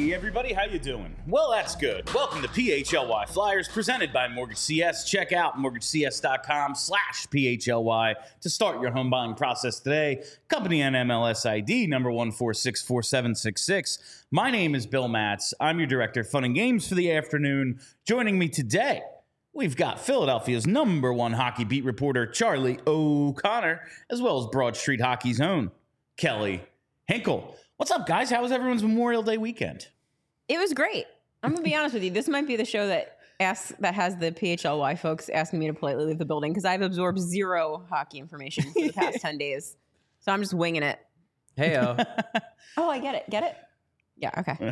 Hey everybody, how you doing? Well, that's good. Welcome to PHLY Flyers, presented by Mortgage CS. Check out mortgagecs.com/PHLY to start your home buying process today. Company NMLS ID number 1464766. My name is Bill Matz. I'm your director of fun and games for the afternoon. Joining me today, we've got Philadelphia's number one hockey beat reporter, Charlie O'Connor, as well as Broad Street Hockey's own Kelly Hinkle. What's up, guys? How was everyone's Memorial Day weekend? It was great. I'm going to be honest with you. This might be the show that has the PHLY folks asking me to politely leave the building because I've absorbed zero hockey information for the past 10 days. So I'm just winging it. Hey-o. Oh, I get it. Get it? Yeah, okay.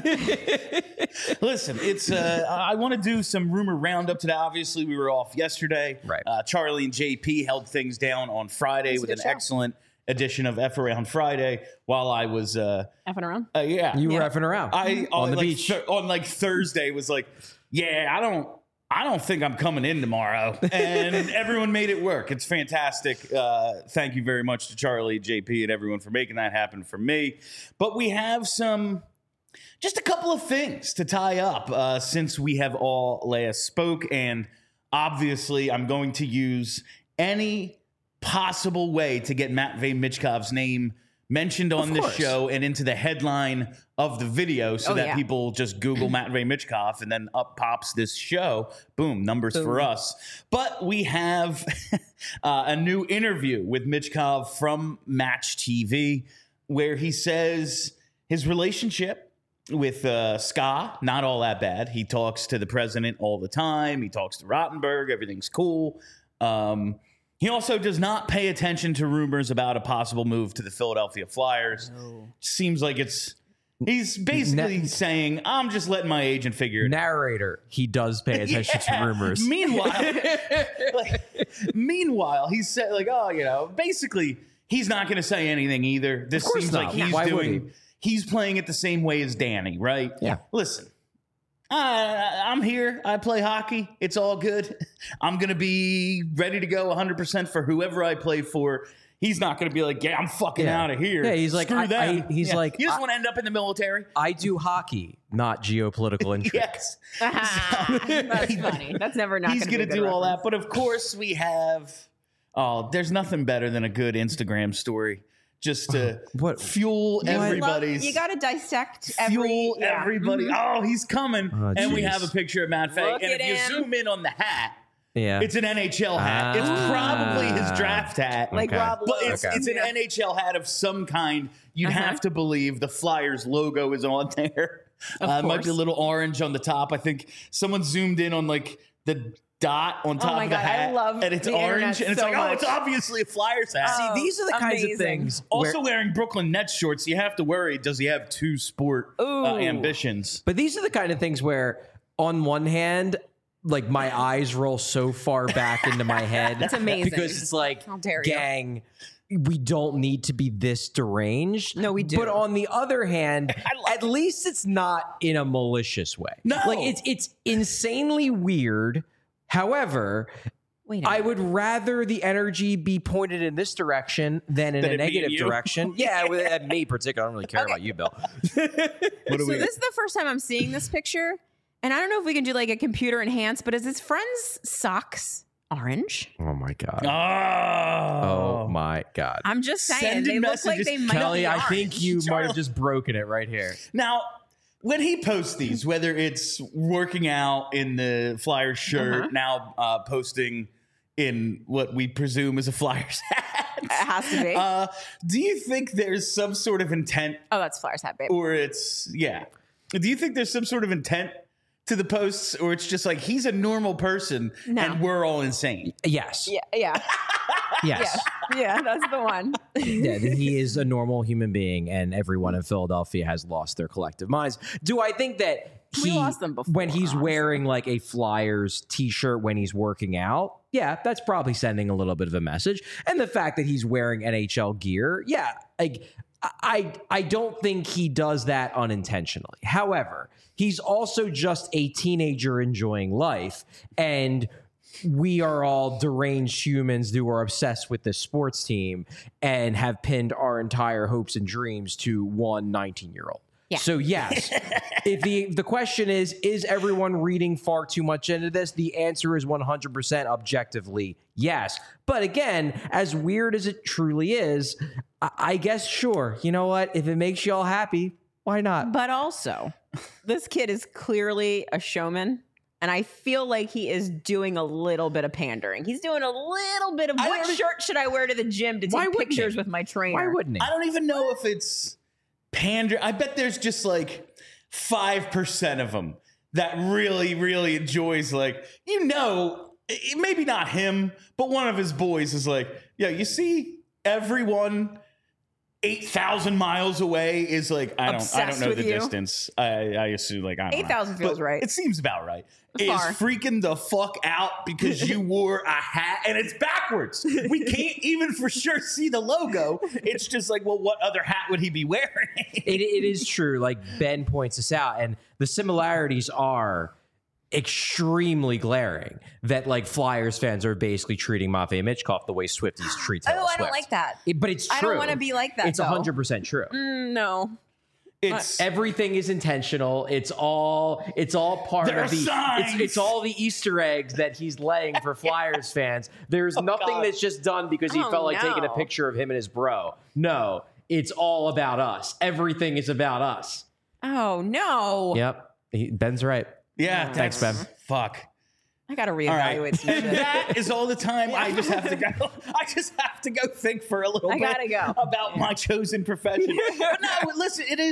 Listen, it's I want to do some rumor roundup today. Obviously, we were off yesterday. Right. Charlie and JP held things down on Friday with an show. excellent edition of F Around Friday while I was Effing around? yeah. You were effing around on the beach. On Thursday was like, yeah, I don't think I'm coming in tomorrow. And everyone made it work. It's fantastic. Thank you very much to Charlie, JP, and everyone for making that happen for me. But we have just a couple of things to tie up since we have all last spoke. And obviously, I'm going to use any possible way to get Matvey Michkov's name mentioned on this show and into the headline of the video so that people just Google Matvey Michkov and then up pops this show. Boom, numbers for us. But we have a new interview with Michkov from Match TV where he says his relationship with Ska, not all that bad. He talks to the president all the time. He talks to Rottenberg. Everything's cool. He also does not pay attention to rumors about a possible move to the Philadelphia Flyers. No. Seems like he's basically saying, I'm just letting my agent figure it out. Narrator, he does pay attention to rumors. Meanwhile, he said, basically, he's not going to say anything either. This seems not. like he's playing it the same way as Danny, right? Yeah. Listen. I'm here. I play hockey. It's all good. I'm going to be ready to go 100% for whoever I play for. He's not going to be like, yeah, I'm fucking out of here. Yeah, he's like, screw them. He's like, you just want to end up in the military? I do hockey, not geopolitical intrigue. Yes. That's funny. That's never not He's going to do all that. But of course we have, there's nothing better than a good Instagram story. Just to fuel everybody's. You got to dissect everybody. Mm-hmm. Oh, he's coming. Oh, and we have a picture of Matt Fay. Look And at if you him. zoom in on the hat, it's an NHL hat. It's probably his draft hat. Like Rob But Lowe. it's an NHL hat of some kind. You'd have to believe the Flyers logo is on there. It might be a little orange on the top. I think someone zoomed in on the dot on top of the hat. I love and it's the orange. And it's so like, much. it's obviously a Flyers hat. See, these are the kinds of things. Also wearing Brooklyn Nets shorts, you have to worry, does he have two sport ambitions? But these are the kind of things where, on one hand, like my eyes roll so far back into my head. That's amazing. Because it's like, How dare you. gang, we don't need to be this deranged. No, we do. But on the other hand, at least it's not in a malicious way. No. Like it's insanely weird. However, I would rather the energy be pointed in this direction than in a negative direction. Yeah, with me particularly. I don't really care about you, Bill. So this is the first time I'm seeing this picture. And I don't know if we can do like a computer enhanced, but is his friend's socks orange? Oh my god. Oh my god. I'm just saying. Sending They look like messages. they might Kelly, be I orange. think you might have just broken it right here. Now, when he posts these, whether it's working out in the Flyers shirt, now posting in what we presume is a Flyers hat. It has to be. Do you think there's some sort of intent? Oh, that's Flyers hat, babe. Or do you think there's some sort of intent to the posts, or it's just like he's a normal person and we're all insane? Yes. Yeah. Yes. Yeah, that's the one. Yeah, he is a normal human being, and everyone in Philadelphia has lost their collective minds. Do I think that We lost them before, when he's honestly. wearing like a Flyers t-shirt when he's working out? Yeah, that's probably sending a little bit of a message. And the fact that he's wearing NHL gear, like I don't think he does that unintentionally. However, he's also just a teenager enjoying life, and we are all deranged humans who are obsessed with this sports team and have pinned our entire hopes and dreams to one 19-year-old. Yeah. So yes, if the question is everyone reading far too much into this? The answer is 100% objectively yes. But again, as weird as it truly is, I guess sure. You know what? If it makes you all happy, why not? But also, this kid is clearly a showman. And I feel like he is doing a little bit of pandering. He's doing a little bit of what shirt should I wear to the gym to take pictures with my trainer? Why wouldn't he? I don't even know if it's pander. I bet there's just like 5% of them that really, really enjoys, like, maybe not him, but one of his boys is like, yeah, you see everyone 8,000 miles away is like, I don't know the distance. I assume, like, I don't know. 8,000 feels right. It seems about right. Far. Is freaking the fuck out because you wore a hat and it's backwards. We can't even for sure see the logo. It's just like, well, what other hat would he be wearing? It is true. Like Ben points this out, and the similarities are extremely glaring. That like Flyers fans are basically treating Matvei Michkov the way Swifties treat Taylor Swift. I don't like that. But it's true. I don't want to be like that. It's 100% true. No. It's Everything is intentional. It's all part There of the are signs. it's all the Easter eggs that he's laying for Flyers fans. There's nothing God. that's just done because he felt like taking a no. picture of him and his bro. No, it's all about us. Everything is about us. Oh, no. Yep. Ben's right. yeah. Thanks, Ben. Fuck. I got to All right. reevaluate some And shit. that is all the time. I just have to go. I just have to go think for a little I bit gotta go. about my chosen profession. But no, listen, it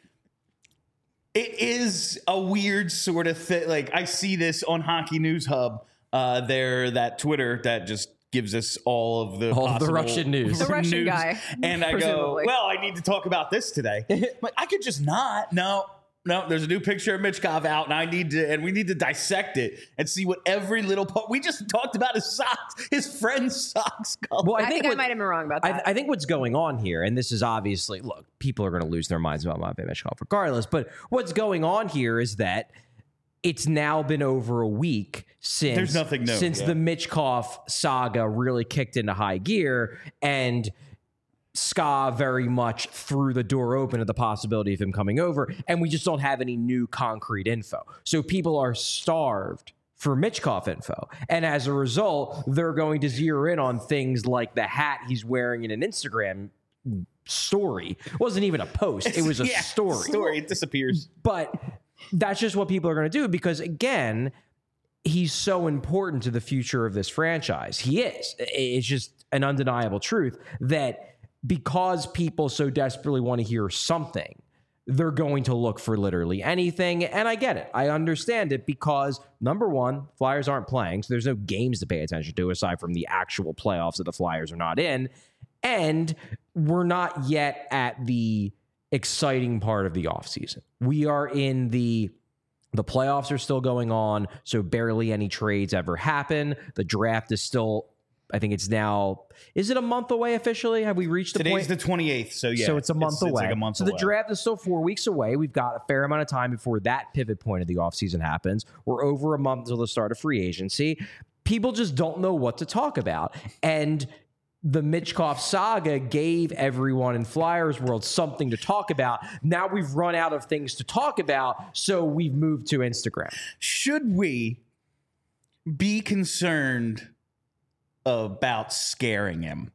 is a weird sort of thing. Like, I see this on Hockey News Hub. That Twitter that just gives us all of the Russian news. The Russian guy, And I go, presumably. well, I need to talk about this today. But I could just not. No, there's a new picture of Michkov out, and we need to dissect it and see what every little part. We just talked about his socks, his friend's socks color. Well, I think I might have been wrong about that. I think what's going on here, and this is obviously, look, people are going to lose their minds about Matvei Michkov regardless, but what's going on here is that it's now been over a week since There's nothing new, since yeah. the Michkov saga really kicked into high gear, and Ska very much threw the door open to the possibility of him coming over, and we just don't have any new concrete info. So people are starved for Michkov info, and as a result, they're going to zero in on things like the hat he's wearing in an Instagram story. It wasn't even a post; it was a story. It disappears. But that's just what people are going to do because, again, he's so important to the future of this franchise. He is. It's just an undeniable truth that because people so desperately want to hear something, they're going to look for literally anything. And I get it. I understand it because, number one, Flyers aren't playing, so there's no games to pay attention to aside from the actual playoffs that the Flyers are not in. And we're not yet at the exciting part of the offseason. We are in the playoffs are still going on, so barely any trades ever happen. The draft is still, I think it's now, is it a month away officially? Have we reached the point? Today's the 28th, so yeah. So it's a month away. It's like a month so away. the draft is still 4 weeks away. We've got a fair amount of time before that pivot point of the offseason happens. We're over a month until the start of free agency. People just don't know what to talk about. And the Michkov saga gave everyone in Flyers world something to talk about. Now we've run out of things to talk about, so we've moved to Instagram. Should we be concerned about scaring him?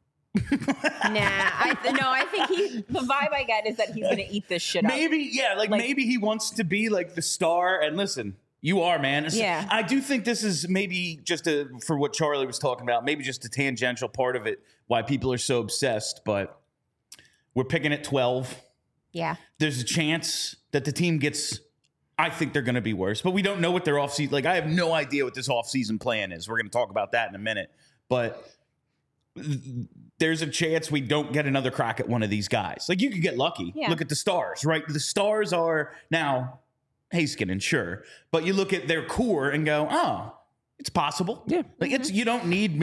I think the vibe I get is that he's going to eat this shit up. Maybe, yeah, like maybe he wants to be like the star. And listen, you are, man. Yeah. I do think this is maybe just for what Charlie was talking about, maybe just a tangential part of it, why people are so obsessed. But we're picking at 12. Yeah. There's a chance that the team gets, I think they're going to be worse, but we don't know what their offseason, like I have no idea what this offseason plan is. We're going to talk about that in a minute. But there's a chance we don't get another crack at one of these guys. Like, you could get lucky. Yeah. Look at the Stars, right? The Stars are now Heiskanen, sure. But you look at their core and go, oh, it's possible. Yeah. Like, it's, you don't need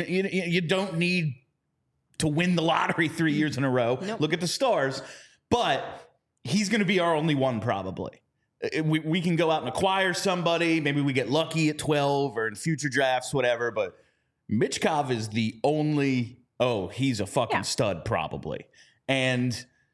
to win the lottery 3 years in a row. Nope. Look at the Stars. But he's going to be our only one probably. We can go out and acquire somebody. Maybe we get lucky at 12 or in future drafts, whatever. But Michkov is the only, he's a fucking stud probably. And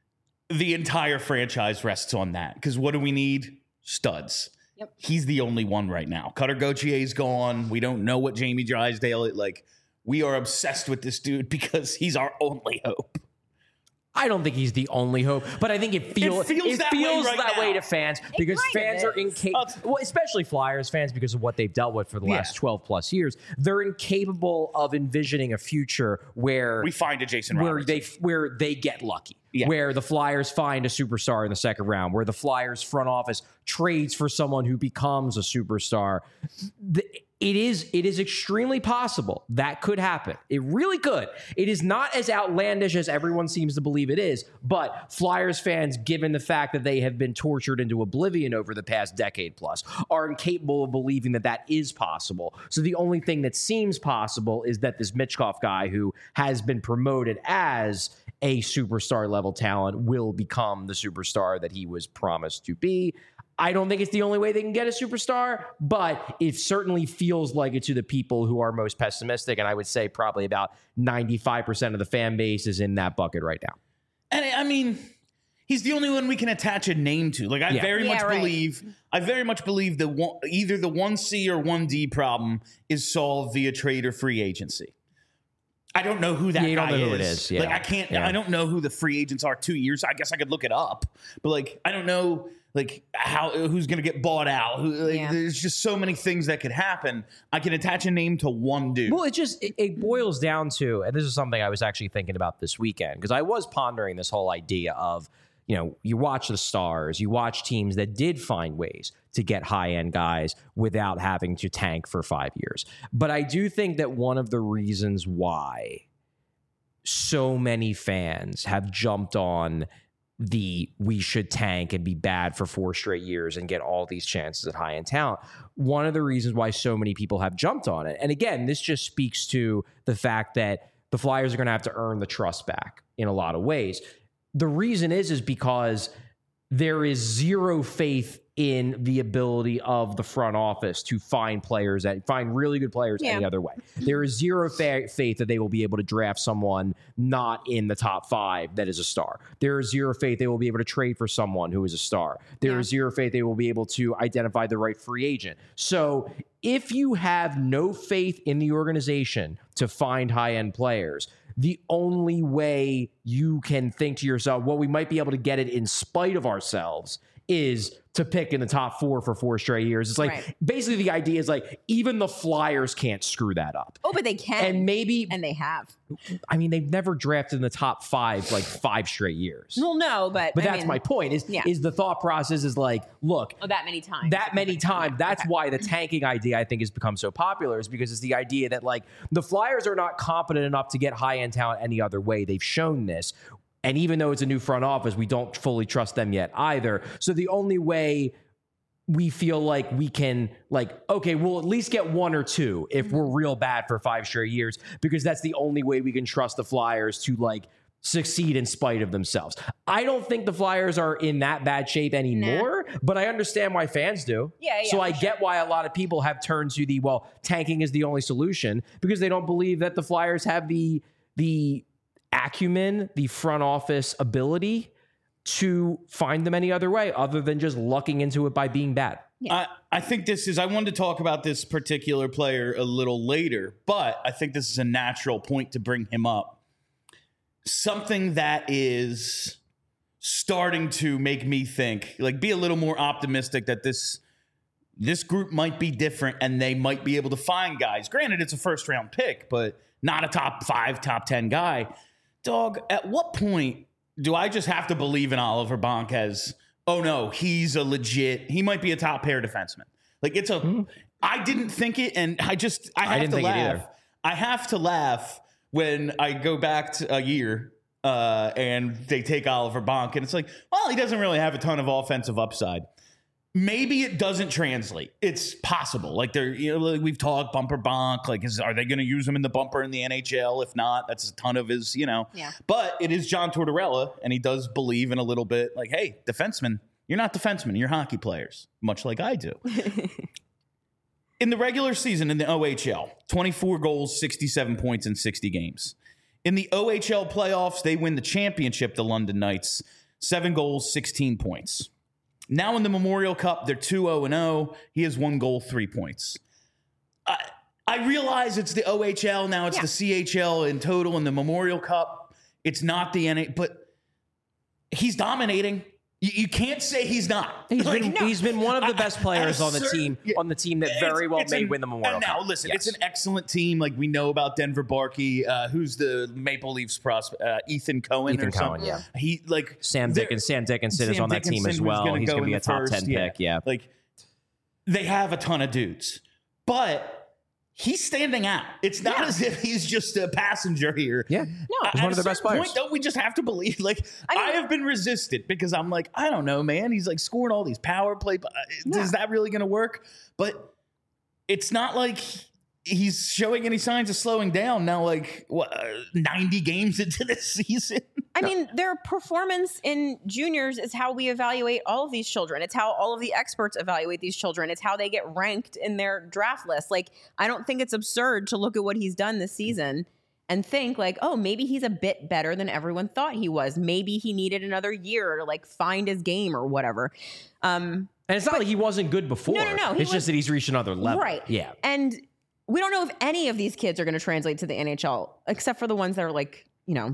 the entire franchise rests on that. Because what do we need? Studs. Yep. He's the only one right now. Cutter Gautier's gone. We don't know what Jamie Drysdale is. Like, we are obsessed with this dude because he's our only hope. I don't think he's the only hope, but I think it feels that way to fans because fans are incapable, well, especially Flyers fans because of what they've dealt with for the last 12 plus years. They're incapable of envisioning a future where we find a Jason Robertson, where they get lucky. Yeah. Where the Flyers find a superstar in the second round, where the Flyers front office trades for someone who becomes a superstar. It is extremely possible that could happen. It really could. It is not as outlandish as everyone seems to believe it is, but Flyers fans, given the fact that they have been tortured into oblivion over the past decade plus, are incapable of believing that that is possible. So the only thing that seems possible is that this Michkov guy who has been promoted as a superstar level talent will become the superstar that he was promised to be. I don't think it's the only way they can get a superstar, but it certainly feels like it to the people who are most pessimistic. And I would say probably about 95% of the fan base is in that bucket right now. And I mean, he's the only one we can attach a name to. Like, I very much believe that either the 1C or 1D problem is solved via trade or free agency. I don't know who that guy is. Who it is. Yeah. Like, I can't. Yeah. I don't know who the free agents are 2 years. I guess I could look it up, but like, I don't know. Like who's going to get bought out? There's just so many things that could happen. I can attach a name to one dude. Well, it boils down to, and this is something I was actually thinking about this weekend because I was pondering this whole idea of, you watch the Stars, you watch teams that did find ways to get high-end guys without having to tank for 5 years. But I do think that one of the reasons why so many fans have jumped on we should tank and be bad for 4 straight years and get all these chances at high-end talent. One of the reasons why so many people have jumped on it, and again, this just speaks to the fact that the Flyers are going to have to earn the trust back in a lot of ways. The reason is because there is zero faith in the ability of the front office to find really good players any other way. There is zero faith that they will be able to draft someone not in the top 5 that is a star. There is zero faith they will be able to trade for someone who is a star. There is zero faith they will be able to identify the right free agent. So if you have no faith in the organization to find high-end players, the only way you can think to yourself, well, we might be able to get it in spite of ourselves is to pick in the top 4 for 4 straight years. It's like basically the idea is like even the Flyers can't screw that up. Oh, but they can. And they have. I mean, they've never drafted in the top 5 like 5 straight years. Well, no, but that's my point. Is the thought process is like, look, that many times. That's why the tanking idea I think has become so popular is because it's the idea that like the Flyers are not competent enough to get high-end talent any other way. They've shown this. And even though it's a new front office, we don't fully trust them yet either. So the only way we feel like we can, okay, we'll at least get 1 or 2 if we're real bad for 5 straight years, because that's the only way we can trust the Flyers to succeed in spite of themselves. I don't think the Flyers are in that bad shape anymore, but I understand why fans do. So I get why a lot of people have turned to tanking is the only solution, because they don't believe that the Flyers have the acumen, the front office ability to find them any other way other than just lucking into it by being bad. I think I wanted to talk about this particular player a little later, but I think this is a natural point to bring him up. Something that is starting to make me think, be a little more optimistic that this group might be different and they might be able to find guys. Granted, it's a first-round pick, but not a top 5, top 10 guy. Dog, at what point do I just have to believe in Oliver Bonk as, oh no, he might be a top pair defenseman? I didn't think it, and I have to laugh. I have to laugh when I go back to a year and they take Oliver Bonk, and it's like, well, he doesn't really have a ton of offensive upside. Maybe it doesn't translate. It's possible. We've talked bumper Bonk. Are they going to use him in the bumper in the NHL? If not, that's a ton of his, Yeah. But it is John Tortorella, and he does believe in a little bit hey, defensemen, you're not defensemen, you're hockey players, much like I do. In the regular season in the OHL, 24 goals, 67 points in 60 games. In the OHL playoffs, they win the championship, the London Knights. 7 goals, 16 points. Now in the Memorial Cup, they're 2-0-0. He has 1 goal, 3 points. I realize it's the OHL. Now it's the CHL in total in the Memorial Cup. It's not the NA, but he's dominating. You can't say he's not. He's been one of the best players on the team that very well may win the Memorial Cup. Now, listen, it's an excellent team. Like we know about Denver Barkey, who's the Maple Leafs prospect, Ethan Cohen or something. Yeah. He like Sam Dickinson is on that team as well. He's going to be a top 10 pick. Yeah. Like they have a ton of dudes, but he's standing out. It's not as if he's just a passenger here. Yeah. No. He's one of the best players. Point, don't we just have to believe? Like, I have been resistant because I'm like, I don't know, man. He's like scoring all these power play. Is that really going to work? But it's not like he's showing any signs of slowing down now, like 90 games into the season. I mean, their performance in juniors is how we evaluate all of these children. It's how all of the experts evaluate these children. It's how they get ranked in their draft list. Like, I don't think it's absurd to look at what he's done this season and think like, oh, maybe he's a bit better than everyone thought he was. Maybe he needed another year to like find his game or whatever. And it's not like he wasn't good before. No. It's just that he's reached another level. Right. Yeah. And we don't know if any of these kids are going to translate to the NHL, except for the ones that are like,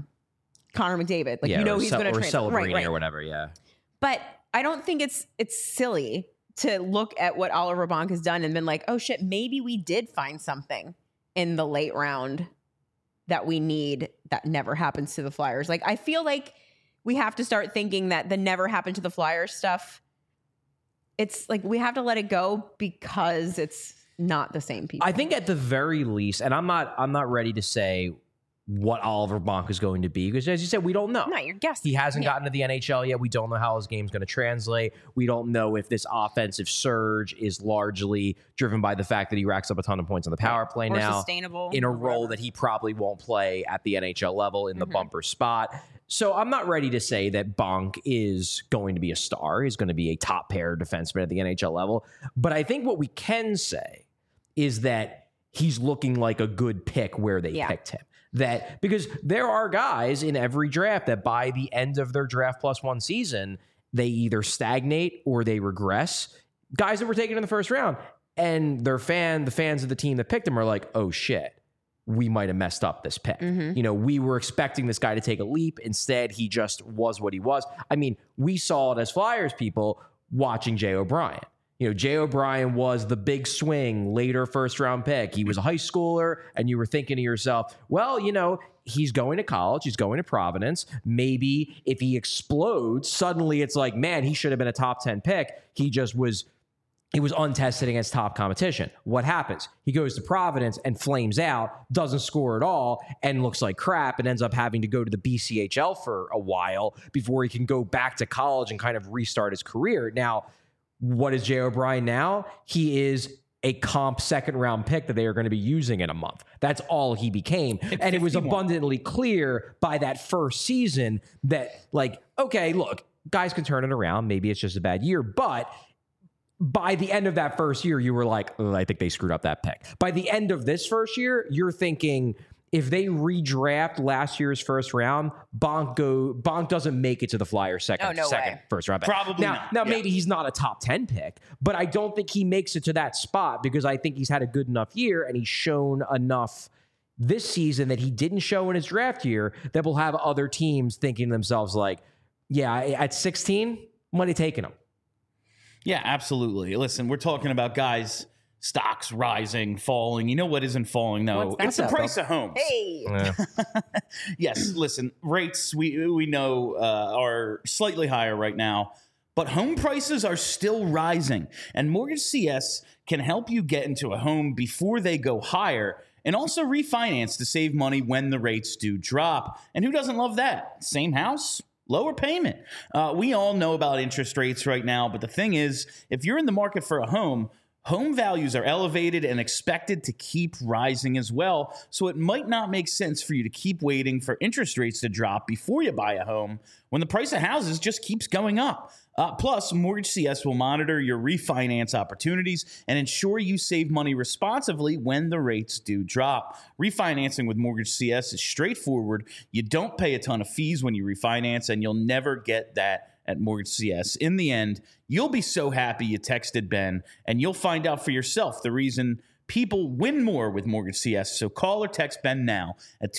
Connor McDavid. Like, he's going to translate. Right. Or whatever, yeah. But I don't think it's silly to look at what Oliver Bonk has done and been like, oh shit, maybe we did find something in the late round that we need that never happens to the Flyers. Like, I feel like we have to start thinking that the never happened to the Flyers stuff, it's like we have to let it go because it's not the same people. I think at the very least, and I'm not ready to say what Oliver Bonk is going to be, because as you said, we don't know. No, you're guessing. He hasn't gotten to the NHL yet. We don't know how his game's going to translate. We don't know if this offensive surge is largely driven by the fact that he racks up a ton of points on the power play or now, sustainable in a role that he probably won't play at the NHL level in the bumper spot. So I'm not ready to say that Bonk is going to be a star. He's going to be a top pair defenseman at the NHL level. But I think what we can say is that he's looking like a good pick where they picked him. That because there are guys in every draft that by the end of their draft plus one season, they either stagnate or they regress. Guys that were taken in the first round, and the fans of the team that picked him are like, oh shit, we might have messed up this pick. We were expecting this guy to take a leap. Instead, he just was what he was. I mean, we saw it as Flyers people watching Jay O'Brien. Jay O'Brien was the big swing, later first-round pick. He was a high schooler, and you were thinking to yourself, well, he's going to college. He's going to Providence. Maybe if he explodes, suddenly it's like, man, he should have been a top 10 pick. He was untested against top competition. What happens? He goes to Providence and flames out, doesn't score at all, and looks like crap, and ends up having to go to the BCHL for a while before he can go back to college and kind of restart his career. Now, what is Jay O'Brien now? He is a comp second-round pick that they are going to be using in a month. That's all he became. And it was abundantly clear by that first season that, like, okay, look, guys can turn it around. Maybe it's just a bad year. But by the end of that first year, you were like, oh, I think they screwed up that pick. By the end of this first year, you're thinking, if they redraft last year's first round, Bonk doesn't make it to the Flyers second first round pick. Probably not. Now, maybe he's not a top 10 pick, but I don't think he makes it to that spot because I think he's had a good enough year and he's shown enough this season that he didn't show in his draft year that will have other teams thinking to themselves like, yeah, at 16, might have taken him. Yeah, absolutely. Listen, we're talking about guys, stocks rising, falling. You know what isn't falling? No, it's the price of homes. Hey. Yeah. Yes, listen, rates we know are slightly higher right now, but home prices are still rising. And Mortgage CS can help you get into a home before they go higher and also refinance to save money when the rates do drop. And who doesn't love that? Same house, lower payment. We all know about interest rates right now, but the thing is, if you're in the market for a home Home values are elevated and expected to keep rising as well, so it might not make sense for you to keep waiting for interest rates to drop before you buy a home when the price of houses just keeps going up. Plus, Mortgage CS will monitor your refinance opportunities and ensure you save money responsibly when the rates do drop. Refinancing with Mortgage CS is straightforward. You don't pay a ton of fees when you refinance, and you'll never get that at Mortgage CS. In the end, you'll be so happy you texted Ben, and you'll find out for yourself the reason people win more with Mortgage CS. So call or text Ben now at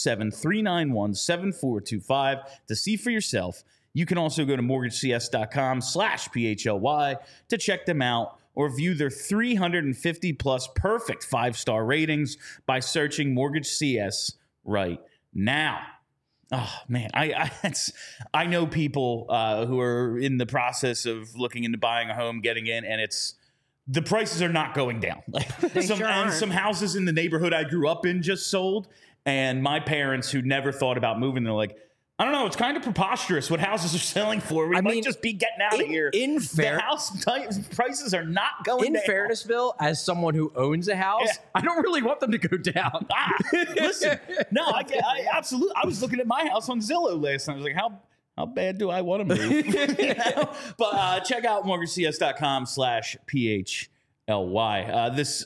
267-391-7425 to see for yourself. You can also go to mortgagecs.com/PHLY to check them out or view their 350 plus perfect 5-star ratings by searching Mortgage CS right now. Oh man, I know people who are in the process of looking into buying a home, getting in, and the prices are not going down. Some houses in the neighborhood I grew up in just sold, and my parents who never thought about moving, they're like, I don't know. It's kind of preposterous what houses are selling for. We might just be getting out of here. The house prices are not going down. In fairness, Bill, as someone who owns a house, I don't really want them to go down. Listen, no, I absolutely. I was looking at my house on Zillow last night. I was like, how bad do I want to move? You know? But check out mortgagecs.com/PHLY. This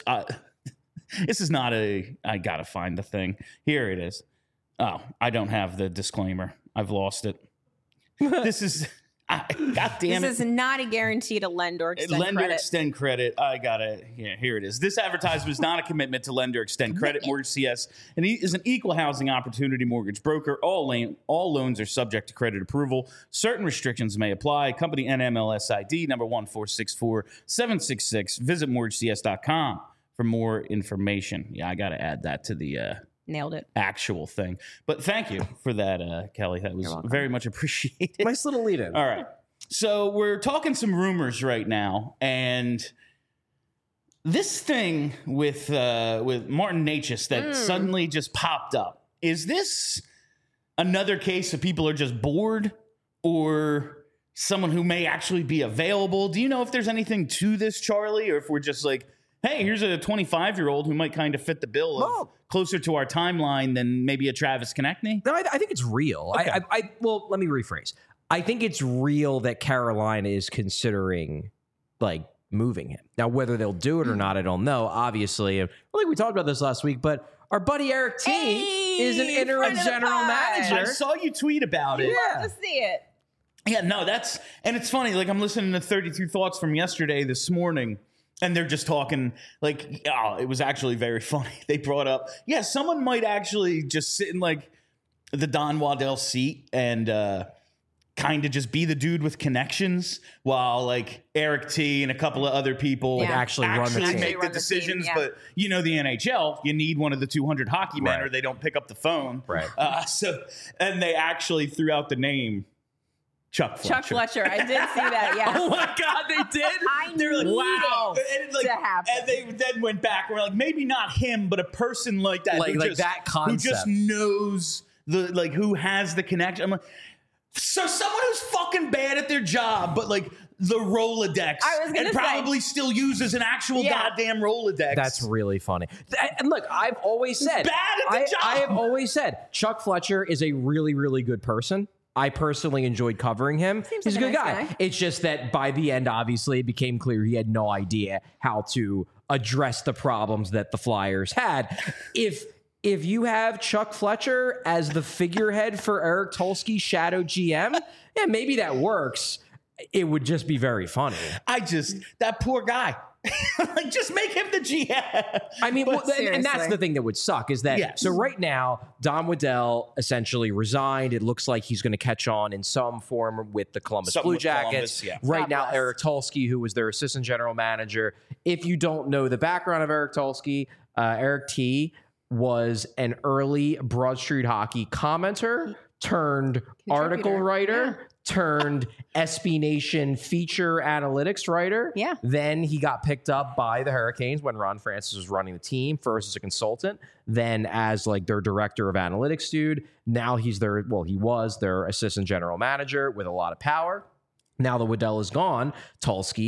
is not I gotta find the thing. Here it is. Oh, I don't have the disclaimer. I've lost it. This is, God damn it. This is not a guarantee to lend or extend lend credit. or extend credit. I got it. Yeah, here it is. This advertisement is not a commitment to lend or extend credit. Mortgage CS is an equal housing opportunity mortgage broker. All loans are subject to credit approval. Certain restrictions may apply. Company NMLS ID number 1464766. Visit mortgagecs.com for more information. Yeah, I got to add that to the Nailed it. actual thing. But thank you for that, Kelly. That was very much appreciated. Nice little lead in. All right. So we're talking some rumors right now, and this thing with Martin Necas that suddenly just popped up. Is this another case of people are just bored, or someone who may actually be available? Do you know if there's anything to this, Charlie, or if we're just like, hey, here's a 25-year-old who might kind of fit the bill of closer to our timeline than maybe a Travis Konechny? No, I think it's real. Okay. Well, let me rephrase. I think it's real that Carolina is considering like moving him. Now, whether they'll do it or not, I don't know. Obviously, I think we talked about this last week, but our buddy Eric T is an interim general manager. I saw you tweet about it. Love to see it. Yeah, no, and it's funny. Like, I'm listening to 32 Thoughts from yesterday, this morning, and they're just talking like, oh, it was actually very funny. They brought up, someone might actually just sit in like the Don Waddell seat and kind of just be the dude with connections while like Eric T and a couple of other people actually run the team. Make the decisions. But you know, the NHL, you need one of the 200 hockey men or they don't pick up the phone. Right. And they actually threw out the name Chuck Fletcher. I did see that, yeah. Oh my God, they did? They're like, wow. To happen. And they then went back and were like, maybe not him, but a person like that. Like that concept. Who just knows who has the connection. I'm like, so someone who's fucking bad at their job, but like the Rolodex and probably still uses an actual goddamn Rolodex. That's really funny. And look, I've always said, bad at the job. I have always said Chuck Fletcher is a really, really good person. I personally enjoyed covering him. He's a good guy. It's just that by the end, obviously, it became clear he had no idea how to address the problems that the Flyers had. If you have Chuck Fletcher as the figurehead for Eric Tulsky's shadow GM, maybe that works. It would just be very funny. That poor guy. Like, just make him the GM. I mean, and that's the thing that would suck is that. So right now, Don Waddell essentially resigned. It looks like he's going to catch on in some form with the Columbus Blue Jackets. Right now, Eric Tulsky, who was their assistant general manager. If you don't know the background of Eric Tulsky, Eric T was an early Broad Street Hockey commenter turned article writer. Turned SB Nation feature analytics writer. Yeah. Then he got picked up by the Hurricanes when Ron Francis was running the team, first as a consultant, then as like their director of analytics dude. Now he was their assistant general manager with a lot of power. Now that Waddell is gone, Tulsky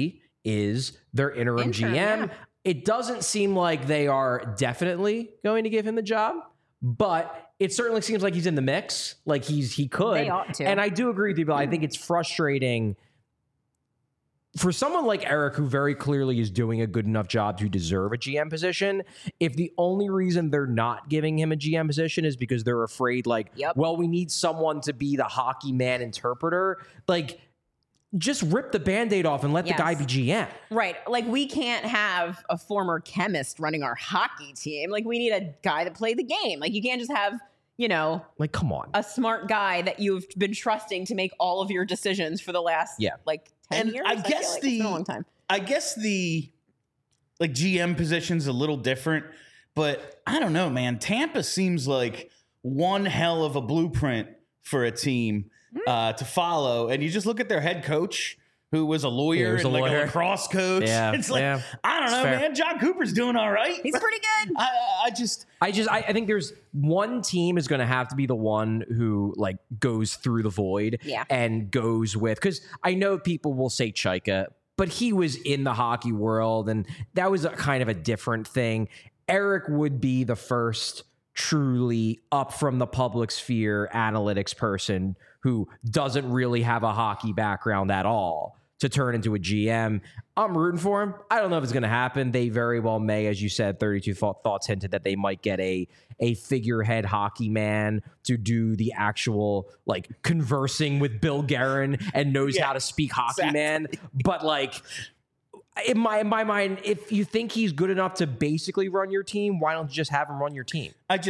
is their interim GM. Yeah. It doesn't seem like they are definitely going to give him the job, but it certainly seems like he's in the mix. Like he could. They ought to. And I do agree with you, Bill. I think it's frustrating for someone like Eric, who very clearly is doing a good enough job to deserve a GM position. If the only reason they're not giving him a GM position is because they're afraid, like, well, we need someone to be the hockey man interpreter, like, just rip the Band-Aid off and let the guy be GM. Right. Like, we can't have a former chemist running our hockey team. Like, we need a guy that played the game. Like, you can't just have, you know, like, come on, a smart guy that you've been trusting to make all of your decisions for the last, like, 10 years. I guess it's been a long time. I guess the like GM position's a little different, but I don't know, man. Tampa seems like one hell of a blueprint for a team to follow. And you just look at their head coach, who was a lawyer and like a lacrosse coach. Yeah, it's like, I don't know, man. John Cooper's doing all right. He's pretty good. I think there's one team is going to have to be the one who like goes through the void and goes with, because I know people will say Chaika, but he was in the hockey world and that was a kind of a different thing. Eric would be the first truly up from the public sphere analytics person who doesn't really have a hockey background at all to turn into a GM. I'm rooting for him. I don't know if it's going to happen. They very well may, as you said, 32 Thoughts hinted that they might get a figurehead hockey man to do the actual like conversing with Bill Guerin and knows how to speak hockey man. But like in my mind, if you think he's good enough to basically run your team, why don't you just have him run your team?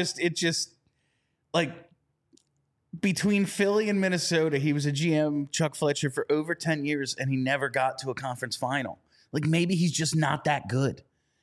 Between Philly and Minnesota, he was a GM, Chuck Fletcher, for over 10 years, and he never got to a conference final. Like, maybe he's just not that good.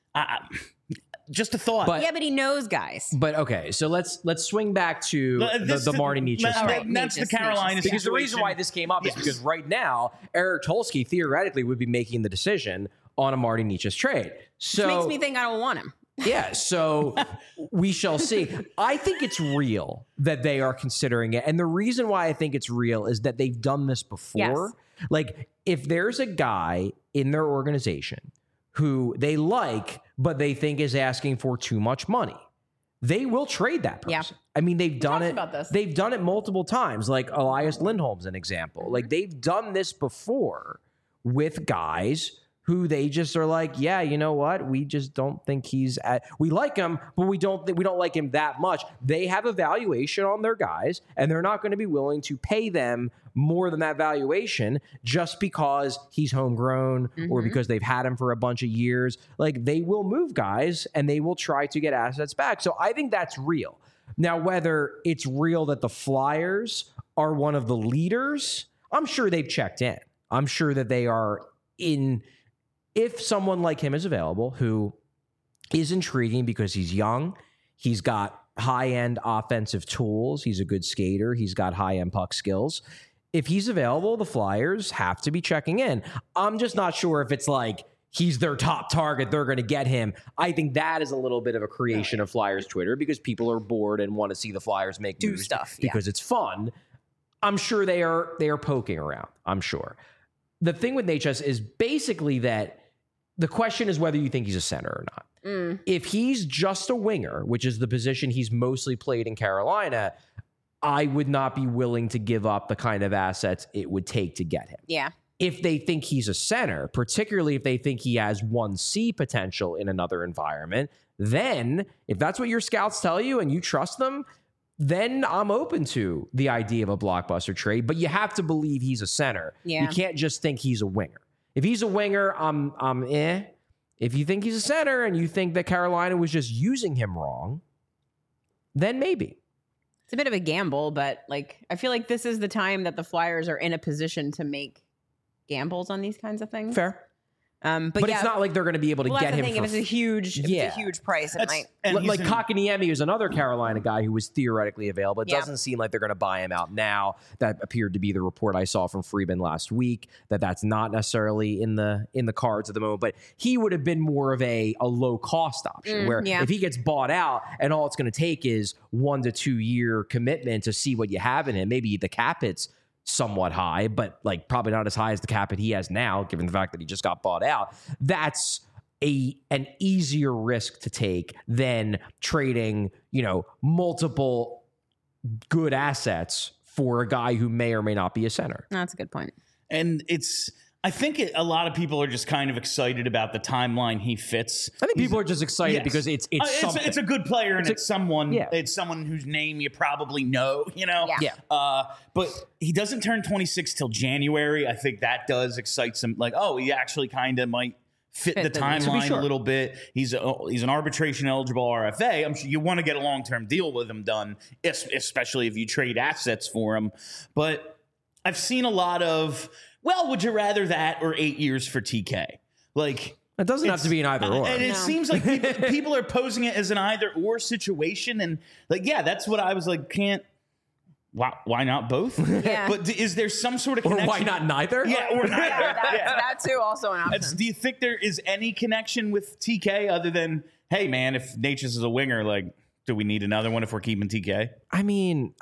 Just a thought. But he knows guys. But okay, so let's swing back to the Marty Nietzsche story. That's the Carolina situation. Because the reason why this came up is because right now, Eric Tulsky theoretically would be making the decision on a Marty Nietzsche trade. So which makes me think I don't want him. Yeah, so we shall see. I think it's real that they are considering it. And the reason why I think it's real is that they've done this before. Yes. Like, if there's a guy in their organization who they like, but they think is asking for too much money, they will trade that person. Yeah. I mean, they've done it. They've done it multiple times. Like Elias Lindholm's an example. Like, they've done this before with guys who they just are like, yeah, you know what? We just don't think we like him, but we don't like him that much. They have a valuation on their guys, and they're not going to be willing to pay them more than that valuation just because he's homegrown or because they've had him for a bunch of years. Like, they will move guys and they will try to get assets back. So I think that's real. Now, whether it's real that the Flyers are one of the leaders, I'm sure they've checked in. I'm sure that they are in. If someone like him is available, who is intriguing because he's young, he's got high-end offensive tools, he's a good skater, he's got high-end puck skills. If he's available, the Flyers have to be checking in. I'm just not sure if it's like he's their top target, they're going to get him. I think that is a little bit of a creation of Flyers Twitter because people are bored and want to see the Flyers make moves stuff because it's fun. I'm sure they are poking around. I'm sure. The thing with HS is basically that the question is whether you think he's a center or not. If he's just a winger, which is the position he's mostly played in Carolina, I would not be willing to give up the kind of assets it would take to get him. Yeah. If they think he's a center, particularly if they think he has 1C potential in another environment, then if that's what your scouts tell you and you trust them, then I'm open to the idea of a blockbuster trade. But you have to believe he's a center. Yeah. You can't just think he's a winger. If he's a winger, I'm eh. If you think he's a center and you think that Carolina was just using him wrong, then maybe. It's a bit of a gamble, but like I feel like this is the time that the Flyers are in a position to make gambles on these kinds of things. Fair. But it's not like they're going to be able to get him. If it's a huge price, it might. Like Kotkaniemi is another Carolina guy who was theoretically available. It doesn't seem like they're going to buy him out now. That appeared to be the report I saw from Friedman last week. That's not necessarily in the cards at the moment. But he would have been more of a low cost option. Where if he gets bought out and all it's going to take is 1 to 2 year commitment to see what you have in him, maybe the cap hits somewhat high, but like probably not as high as the cap that he has now, given the fact that he just got bought out. That's an easier risk to take than trading, multiple good assets for a guy who may or may not be a center. That's a good point. And I think a lot a people are just kind of excited about the timeline he fits. I think people are just excited because it's something. It's a good player, and it's someone yeah. it's someone whose name you probably know, Yeah. But he doesn't turn 26 till January. I think that does excite some, like, oh, he actually kind of might fit the timeline a little bit. He's an arbitration eligible RFA. I'm sure you want to get a long-term deal with him done, especially if you trade assets for him. But I've seen a lot of, well, would you rather that or 8 years for TK? Like, it doesn't have to be an either or. And it seems like people are posing it as an either or situation. And like, yeah, that's what I was like, why not both? Yeah. But is there some sort of connection? Or why not neither? Yeah, or neither. That too also an option. Do you think there is any connection with TK other than, hey, man, if Natchez is a winger, like, do we need another one if we're keeping TK? I mean,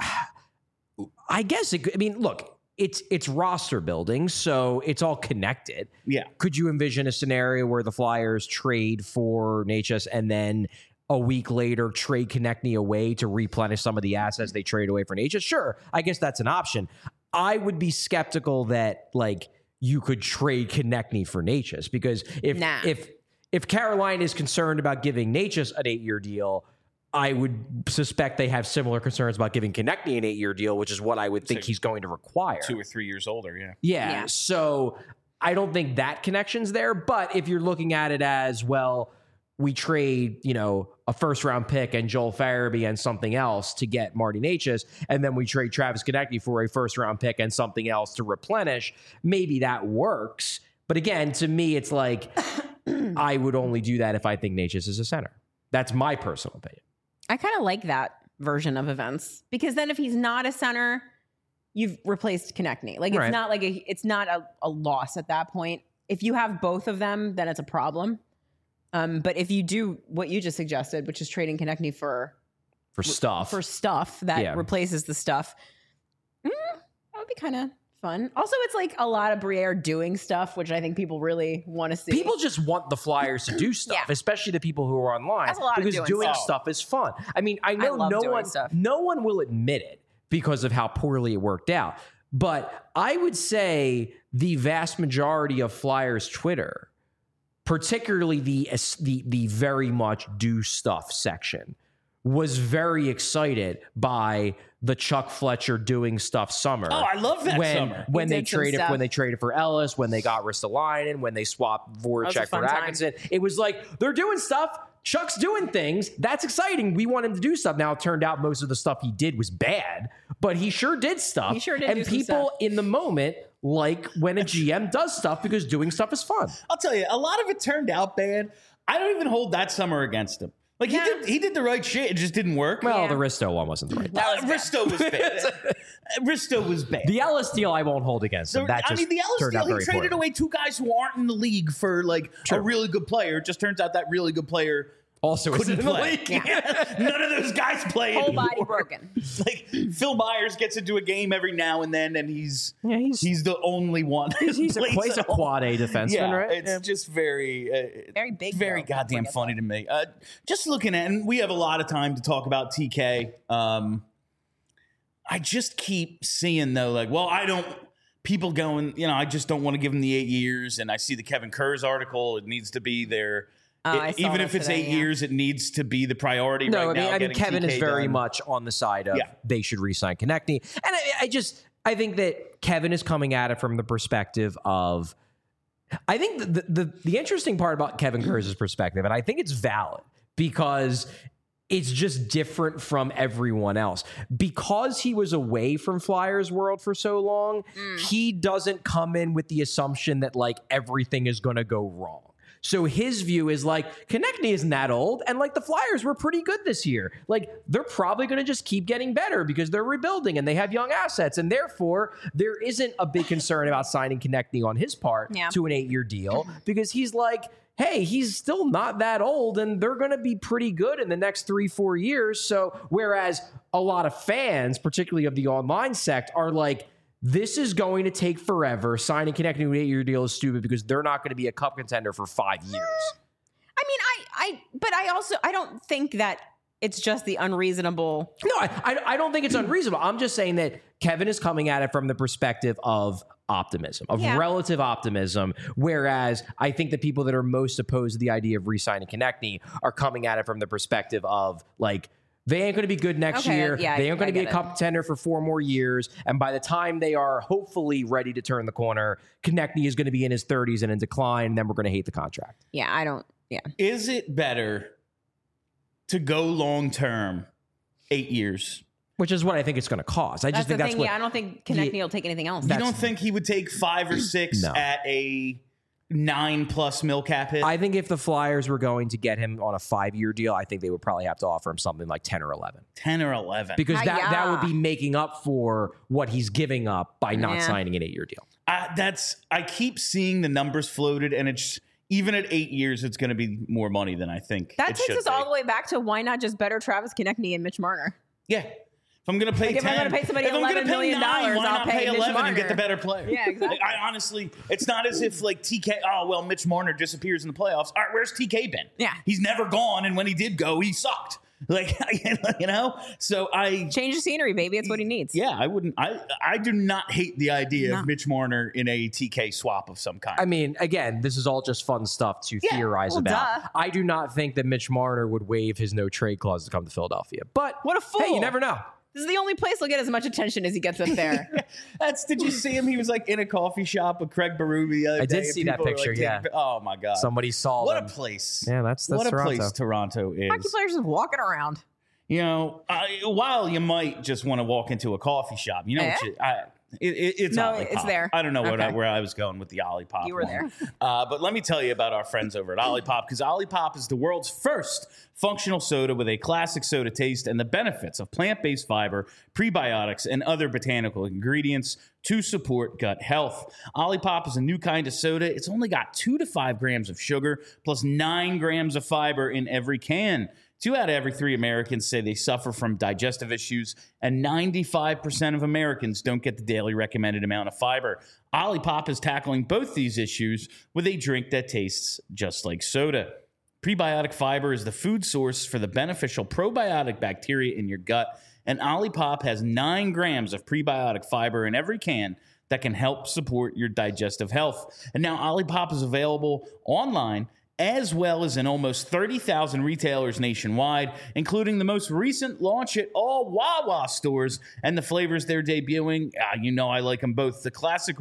I guess look, it's roster building, so it's all connected. Yeah. Could you envision a scenario where the Flyers trade for Natchez and then a week later trade Konechny away to replenish some of the assets they trade away for Natchez? Sure, I guess that's an option. I would be skeptical that like you could trade Konechny for Natchez, because if Carolina is concerned about giving Natchez an 8-year deal, I would suspect they have similar concerns about giving Konechny an 8-year deal, which is what I would think he's going to require. 2 or 3 years older, yeah. Yeah, so I don't think that connection's there. But if you're looking at it as, well, we trade, a first-round pick and Joel Farabee and something else to get Marty Natchez, and then we trade Travis Konechny for a first-round pick and something else to replenish, maybe that works. But again, to me, it's like I would only do that if I think Natchez is a center. That's my personal opinion. I kind of like that version of events, because then if he's not a center, you've replaced Konechny. Like, it's not like it's not a loss at that point. If you have both of them, then it's a problem. But if you do what you just suggested, which is trading Konechny for stuff that replaces the stuff, that would be kind of fun. Also, it's like a lot of Briere doing stuff, which I think people really want to see. People just want the Flyers to do stuff, especially the people who are online. That's a lot because of doing stuff is fun. I mean, I know no one will admit it because of how poorly it worked out. But I would say the vast majority of Flyers Twitter, particularly the very much do stuff section, was very excited by the Chuck Fletcher doing stuff summer. Oh, I love that summer. When they traded for Ellis, when they got Ristolainen, when they swapped Voracek for Atkinson. It was like, they're doing stuff. Chuck's doing things. That's exciting. We want him to do stuff. Now, it turned out most of the stuff he did was bad, but he sure did stuff. He sure did. And people in the moment like when a GM does stuff, because doing stuff is fun. I'll tell you, a lot of it turned out bad. I don't even hold that summer against him. Like, he did the right shit. It just didn't work. Well, the Risto one wasn't the right thing. Risto was bad. Risto was bad. The Ellis deal I won't hold against him. The Ellis deal, he traded away 2 guys who aren't in the league for like a really good player. It just turns out that really good player also couldn't play. None of those guys play Whole anymore. body broken. Like, Phil Myers gets into a game every now and then, and he's the only one. He's a quad A defenseman, right? It's just very big, very goddamn funny to me. Just looking at, and we have a lot of time to talk about TK. I just keep seeing though, like, well, people going, I just don't want to give him the 8 years, and I see the Kevin Kurz article. It needs to be there. Even if it's 8 years, it needs to be the priority right now. I mean, Kevin is very much on the side of they should re-sign Konechny. And I think that Kevin is coming at it from the perspective of, I think the interesting part about Kevin Kurz's perspective, and I think it's valid, because it's just different from everyone else. Because he was away from Flyers world for so long, he doesn't come in with the assumption that like everything is going to go wrong. So his view is like, Konechny isn't that old, and like the Flyers were pretty good this year. Like, they're probably going to just keep getting better because they're rebuilding and they have young assets, and therefore there isn't a big concern about signing Konechny on his part to an 8-year deal, because he's like, hey, he's still not that old, and they're going to be pretty good in the next 3-4 years. So whereas a lot of fans, particularly of the online sect, are like, this is going to take forever. Signing Konechny to an 8-year deal is stupid because they're not going to be a cup contender for 5 years. I mean, but I don't think that it's just the unreasonable. No, I don't think it's unreasonable. I'm just saying that Kevin is coming at it from the perspective of optimism, of relative optimism, whereas I think the people that are most opposed to the idea of re-signing Konechny are coming at it from the perspective of like, they ain't going to be good next year. They ain't going to be a cup contender for 4 more years. And by the time they are hopefully ready to turn the corner, Konechny is going to be in his 30s and in decline. And then we're going to hate the contract. Is it better to go long term 8 years? Which is what I think it's going to cost. I just think that's what. I don't think Konechny will take anything else. You don't think he would take 5 or 6 at a 9+ mil cap hit? I think if the Flyers were going to get him on a 5-year deal, I think they would probably have to offer him something like 10 or 11. 10 or 11. Because that would be making up for what he's giving up by not signing an 8-year deal. I keep seeing the numbers floated, and it's even at 8 years, it's going to be more money than I think. That takes us all the way back to why not just better Travis Konechny and Mitch Marner? Yeah. If I'm going to pay 10, if I'm going to pay somebody $11 million, why not pay 11 Marner and get the better player? Yeah, exactly. Like, I honestly, it's not as if like TK, Mitch Marner disappears in the playoffs. All right, where's TK been? Yeah. He's never gone, and when he did go, he sucked. Like, you know? So change the scenery, baby. It's what he needs. Yeah, I do not hate the idea of Mitch Marner in a TK swap of some kind. I mean, again, this is all just fun stuff to theorize about. I do not think that Mitch Marner would waive his no trade clause to come to Philadelphia. But what a fool. Hey, you never know. This is the only place he'll get as much attention as he gets up there. Did you see him? He was like in a coffee shop with Craig Berube the other day. I did see that picture, Oh my God. Somebody saw What them. a place. Yeah, that's what Toronto. A place Toronto is. Hockey players just walking around. You know, while you might just want to walk into a coffee shop, you know, it's Olipop. It's there. I don't know where I was going with the Olipop. You were there. But let me tell you about our friends over at Olipop, because Olipop is the world's first functional soda with a classic soda taste and the benefits of plant-based fiber, prebiotics, and other botanical ingredients to support gut health. Olipop is a new kind of soda. It's only got 2 to 5 grams of sugar plus 9 grams of fiber in every can. 2 out of every 3 Americans say they suffer from digestive issues, and 95% of Americans don't get the daily recommended amount of fiber. Olipop is tackling both these issues with a drink that tastes just like soda. Prebiotic fiber is the food source for the beneficial probiotic bacteria in your gut, and Olipop has 9 grams of prebiotic fiber in every can that can help support your digestive health. And now Olipop is available online as well as in almost 30,000 retailers nationwide, including the most recent launch at all Wawa stores. And the flavors they're debuting, you know I like them both. The classic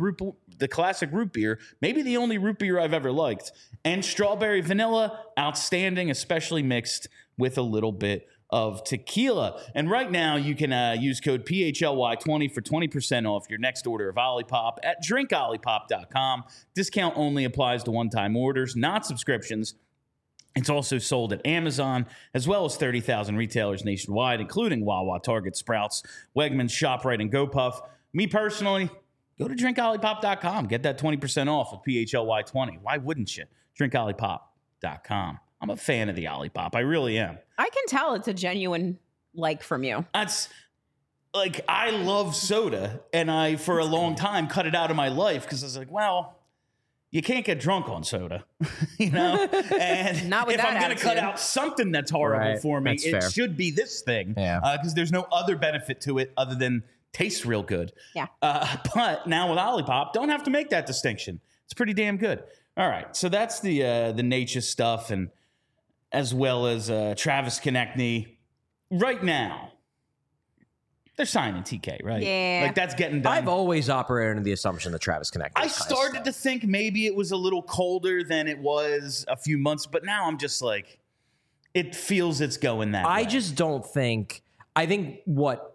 root beer, maybe the only root beer I've ever liked, and strawberry vanilla, outstanding, especially mixed with a little bit of tequila. And right now, you can use code PHLY20 for 20% off your next order of Olipop at drinkolipop.com. Discount only applies to one-time orders, not subscriptions. It's also sold at Amazon, as well as 30,000 retailers nationwide, including Wawa, Target, Sprouts, Wegmans, ShopRite, and GoPuff. Me personally, go to drinkolipop.com. Get that 20% off with PHLY20. Why wouldn't you? Drinkolipop.com. I'm a fan of the Olipop. I really am. I can tell it's a genuine like from you. That's like, I love soda, and I, for a long time, cut it out of my life because I was like, well, you can't get drunk on soda, you know? And Not with if that I'm going to cut attitude. out something that's horrible for me, That's it fair. should be this thing. Because there's no other benefit to it other than tastes real good. Yeah. But now with Olipop, don't have to make that distinction. It's pretty damn good. All right, so that's the nature stuff, and as well as Travis Konechny. Right now, they're signing TK, right? Yeah. Like, that's getting done. I've always operated under the assumption that Travis Konechny. I started to think maybe it was a little colder than it was a few months, but now I'm just like, it feels it's going that way. I just don't think. I think what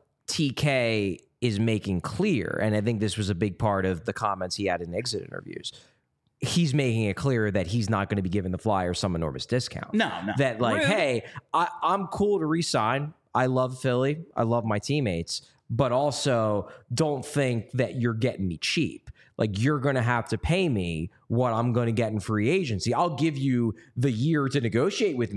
TK is making clear, and I think this was a big part of the comments he had in exit interviews. He's making it clear that he's not going to be giving the Flyers some enormous discount. No. That like, Rude. hey, I'm cool to resign. I love Philly. I love my teammates, but also don't think that you're getting me cheap. Like, you're going to have to pay me what I'm going to get in free agency. I'll give you the year to negotiate with me,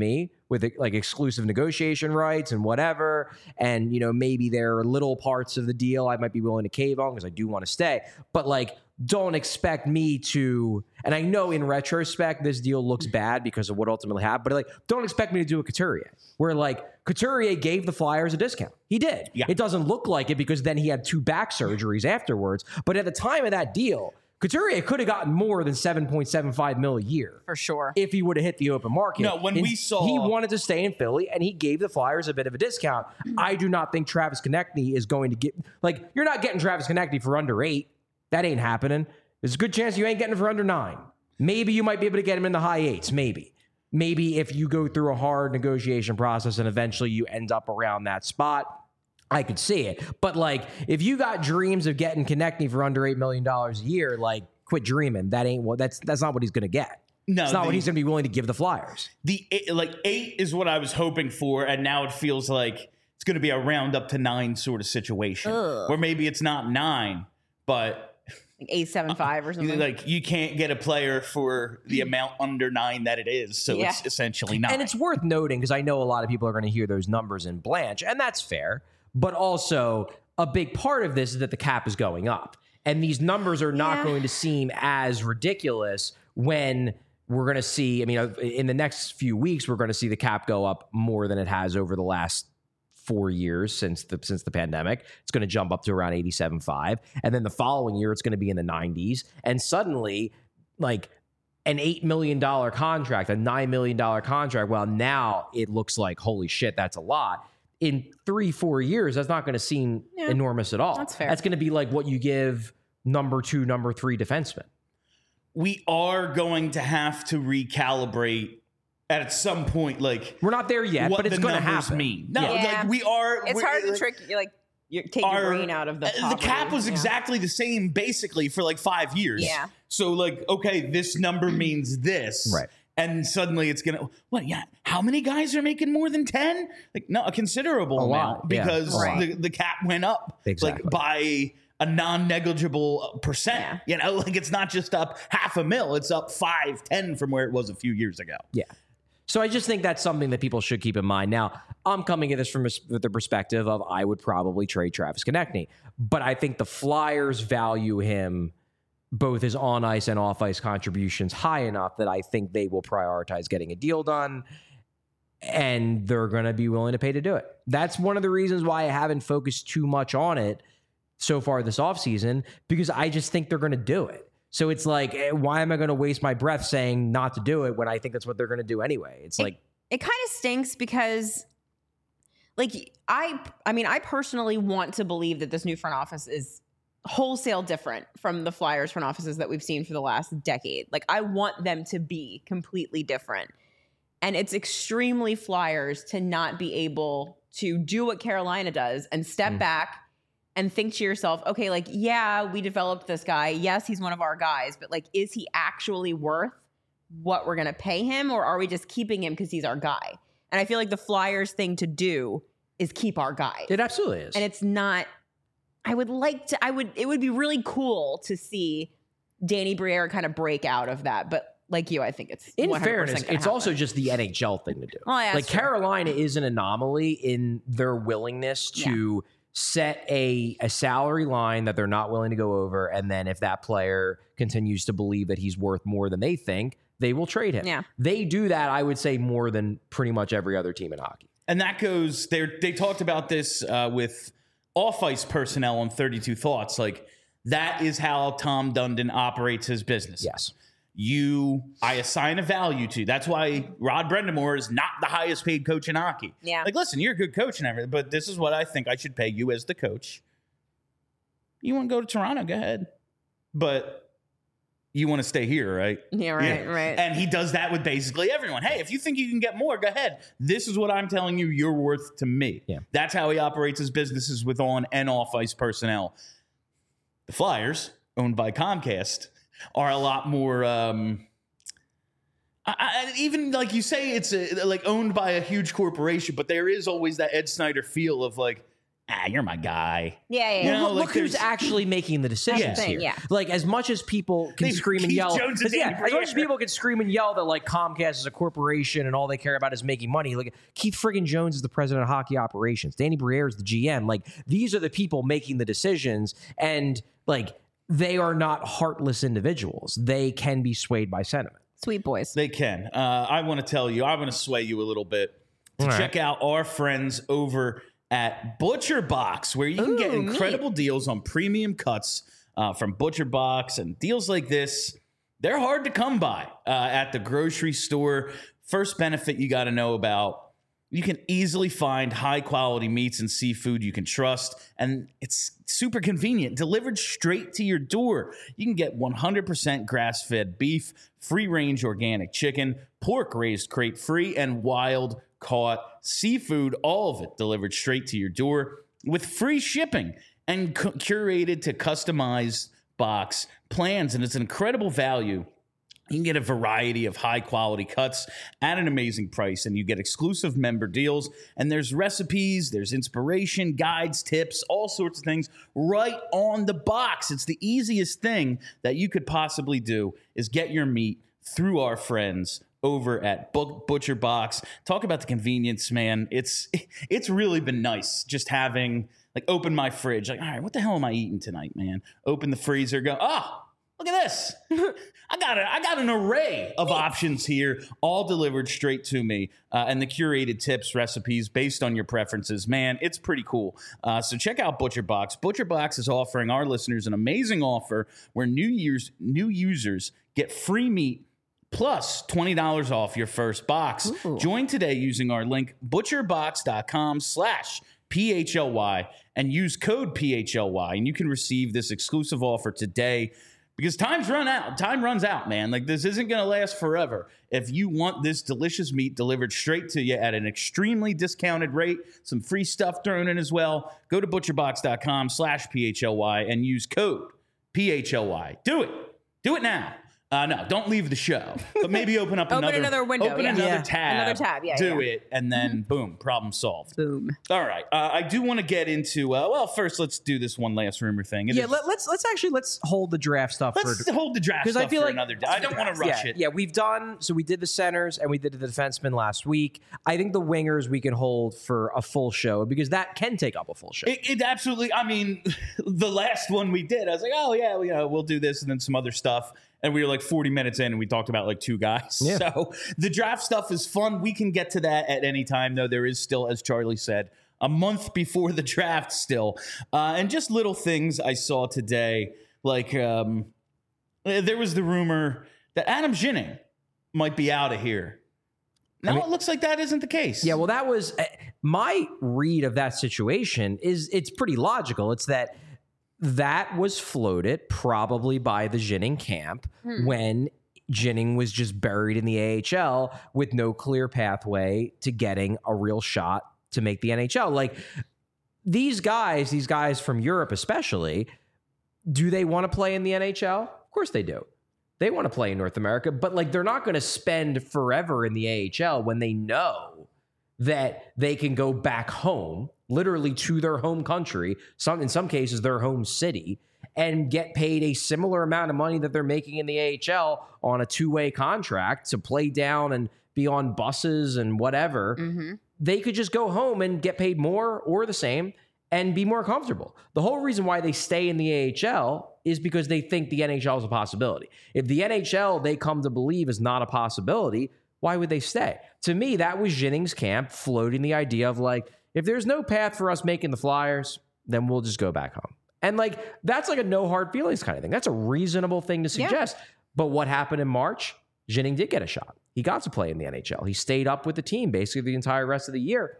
with like exclusive negotiation rights and whatever. And, you know, maybe there are little parts of the deal I might be willing to cave on because I do want to stay. But like, don't expect me to, and I know in retrospect, this deal looks bad because of what ultimately happened, but like, don't expect me to do a Couturier, where like Couturier gave the Flyers a discount. He did. Yeah. It doesn't look like it because then he had 2 back surgeries afterwards. But at the time of that deal, Couturier could have gotten more than $7.75 million a year. For sure. If he would have hit the open market. No, when we saw- he wanted to stay in Philly and he gave the Flyers a bit of a discount. I do not think Travis Konechny is going to get, like, you're not getting Travis Konechny for under 8. That ain't happening. There's a good chance you ain't getting it for under 9. Maybe you might be able to get him in the high 8s. Maybe if you go through a hard negotiation process and eventually you end up around that spot, I could see it. But like, if you got dreams of getting Konechny for under $8 million a year, like, quit dreaming. That ain't what. That's not what he's going to get. No, it's not what he's going to be willing to give the Flyers. The 8 is what I was hoping for, and now it feels like it's going to be a round up to 9 sort of situation, or maybe it's not 9, but Like 8.75 or something. like you can't get a player for the amount under 9 that it is, so Yeah. it's essentially 9. And it's worth noting, because I know a lot of people are going to hear those numbers in Blanche, and that's fair. But also, a big part of this is that the cap is going up. And these numbers are not going to seem as ridiculous when we're going to see, I mean, in the next few weeks, we're going to see the cap go up more than it has over the last 4 years since the pandemic. It's going to jump up to around 87.5. And then the following year, it's going to be in the 90s. And suddenly, like, an $8 million contract, a $9 million contract, well, now it looks like, holy shit, that's a lot. In 3-4 years, that's not going to seem enormous at all. That's fair. That's going to be like what you give number 2, number 3 defensemen. We are going to have to recalibrate at some point, like, We're not there yet, what but it's the going to numbers happen. mean. No, Yeah. like we are. It's hard to like, trick, like, you take your brain out of the The cap poverty. was Yeah. exactly the same, basically, for like 5 years. Yeah. So, like, okay, this number means this. Right. And suddenly it's going to, what, yeah, how many guys are making more than 10? Like, no, a considerable amount, lot, yeah. because Right. the cap went up Exactly. like by a non-negligible percent. Yeah. You know, like it's not just up $500,000, it's up 5-10 from where it was a few years ago. Yeah. So I just think that's something that people should keep in mind. Now, I'm coming at this from the perspective of I would probably trade Travis Konechny, but I think the Flyers value him, both his on-ice and off-ice contributions, high enough that I think they will prioritize getting a deal done, and they're going to be willing to pay to do it. That's one of the reasons why I haven't focused too much on it so far this offseason, because I just think they're going to do it. So it's like, why am I going to waste my breath saying not to do it when I think that's what they're going to do anyway? It's like, It kind of stinks because, like, I mean, I personally want to believe that this new front office is wholesale different from the Flyers front offices that we've seen for the last decade. Like, I want them to be completely different. And it's extremely Flyers to not be able to do what Carolina does and step back and think to yourself, okay, like, yeah, we developed this guy. Yes, he's one of our guys, but like, is he actually worth what we're going to pay him, or are we just keeping him because he's our guy? And I feel like the Flyers thing to do is keep our guy. it absolutely is. And it's not, it would be really cool to see Danny Briere kind of break out of that. But like you, I think it's in 100% fairness, gonna it's also happen. just the NHL thing to do. Well, yeah, like that's true. Carolina is an anomaly in their willingness to set a salary line that they're not willing to go over, and then if that player continues to believe that he's worth more than they think, they will trade him. Yeah. They do that, I would say, more than pretty much every other team in hockey. And that goes, they talked about this with off-ice personnel on 32 Thoughts. Like, that is how Tom Dundon operates his business. Yes. I assign a value to. That's why Rod Brendamore is not the highest paid coach in hockey. Yeah. Like, listen, you're a good coach and everything, but this is what I think I should pay you as the coach. You want to go to Toronto? Go ahead. But you want to stay here, right? Yeah, right, right. And he does that with basically everyone. Hey, if you think you can get more, go ahead. This is what I'm telling you you're worth to me. Yeah. That's how he operates his businesses with on and off ice personnel. The Flyers, owned by Comcast, are a lot more even like you say, it's like owned by a huge corporation, but there is always that Ed Snyder feel of like, you're my guy. Yeah. You know, Look who's actually making the decisions thing, here. yeah. Like, as much as people can scream and Keith yell, Jones and Danny as much as Briere. people can scream and yell that like Comcast is a corporation and all they care about is making money. Like, Keith friggin' Jones is the president of hockey operations. Danny Briere is the GM. Like, these are the people making the decisions, and like, they are not heartless individuals. They can be swayed by sentiment. Sweet boys. They can. I want to tell you, I want to sway you a little bit to All right. check out our friends over at Butcher Box, where you can get incredible deals on premium cuts from Butcher Box, and deals like this, they're hard to come by at the grocery store. First benefit you got to know about: you can easily find high quality meats and seafood you can trust, and it's super convenient, delivered straight to your door. You can get 100% grass-fed beef, free-range organic chicken, pork raised crate-free, and wild-caught seafood, all of it delivered straight to your door with free shipping and curated to customized box plans, and it's an incredible value. You can get a variety of high-quality cuts at an amazing price, and you get exclusive member deals, and there's recipes, there's inspiration, guides, tips, all sorts of things right on the box. It's the easiest thing that you could possibly do is get your meat through our friends over at Butcher Box. Talk about the convenience, man. It's really been nice just having, like, open my fridge. Like, all right, what the hell am I eating tonight, man? Open the freezer, go, look at this. I got an array of options here, all delivered straight to me, and the curated tips, recipes based on your preferences. Man, it's pretty cool. So check out Butcher Box. Butcher Box is offering our listeners an amazing offer where new users get free meat plus $20 off your first box. Ooh. Join today using our link butcherbox.com/PHLY and use code PHLY, and you can receive this exclusive offer today. Because time runs out, man. Like, this isn't going to last forever. If you want this delicious meat delivered straight to you at an extremely discounted rate, some free stuff thrown in as well, go to butcherbox.com/PHLY and use code PHLY. Do it. Do it now. No, don't leave the show. But maybe open another window. Open Yeah. another Yeah. tab. Another tab, yeah, Do yeah. it, and then boom, problem solved. Boom. All right. I do want to get into. First, let's do this one last rumor thing. Let's hold the draft stuff Let's hold the draft 'cause stuff I feel for like- another day. I don't want to rush it. Yeah, we did the centers and we did the defensemen last week. I think the wingers we can hold for a full show because that can take up a full show. It absolutely. I mean, the last one we did, I was like, oh yeah, we'll do this and then some other stuff. And we were like 40 minutes in and we talked about like two guys. Yeah. So the draft stuff is fun. We can get to that at any time, though. There is still, as Charlie said, a month before the draft still. And just little things I saw today. Like there was the rumor that Adam Ginning might be out of here. Now it looks like that isn't the case. Yeah, well, that was my read of that situation. It's pretty logical. It's that was floated probably by the Ginning camp when Ginning was just buried in the AHL with no clear pathway to getting a real shot to make the NHL. Like, these guys from Europe especially, do they want to play in the NHL? Of course they do. They want to play in North America, but like, they're not going to spend forever in the AHL when they know that they can go back home, literally to their home country, in some cases their home city, and get paid a similar amount of money that they're making in the AHL on a two-way contract to play down and be on buses and whatever. Mm-hmm. They could just go home and get paid more or the same and be more comfortable. The whole reason why they stay in the AHL is because they think the NHL is a possibility. If the NHL they come to believe is not a possibility, why would they stay? To me, that was Ginning's camp floating the idea of like, if there's no path for us making the Flyers, then we'll just go back home. And like, that's like a no hard feelings kind of thing. That's a reasonable thing to suggest. Yeah. But what happened in March? Ginning did get a shot. He got to play in the NHL. He stayed up with the team basically the entire rest of the year.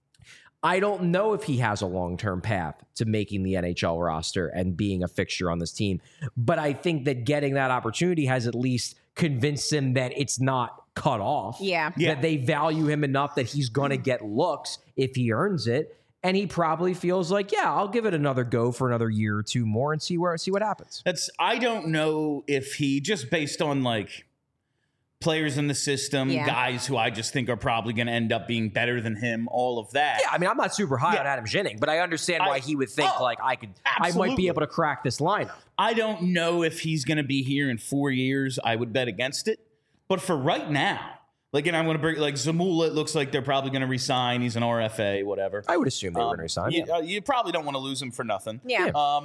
I don't know if he has a long-term path to making the NHL roster and being a fixture on this team. But I think that getting that opportunity has at least convinced him that it's not cut off. Yeah. That they value him enough that he's going to get looks if he earns it. And he probably feels like, yeah, I'll give it another go for another year or two more and see what happens. I don't know if he, just based on like players in the system, Yeah. guys who I just think are probably going to end up being better than him, all of that. Yeah, I mean, I'm not super high on Adam Ginning, but I understand why he would think I might absolutely. be able to crack this lineup. I don't know if he's going to be here in 4 years. I would bet against it. But for right now, like, and I'm going to bring, like, Zamula, it looks like they're probably going to resign. He's an RFA, whatever. I would assume they were going to resign. You probably don't want to lose him for nothing. Yeah.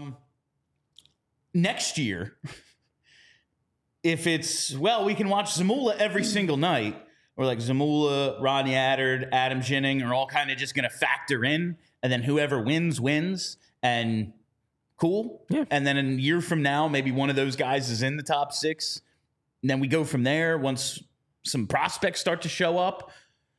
Next year, if it's, well, we can watch Zamula every single night, or like Zamula, Rodney Attard, Adam Ginning are all kind of just going to factor in, and then whoever wins, and cool. Yeah. And then a year from now, maybe one of those guys is in the top 6. And then we go from there once some prospects start to show up.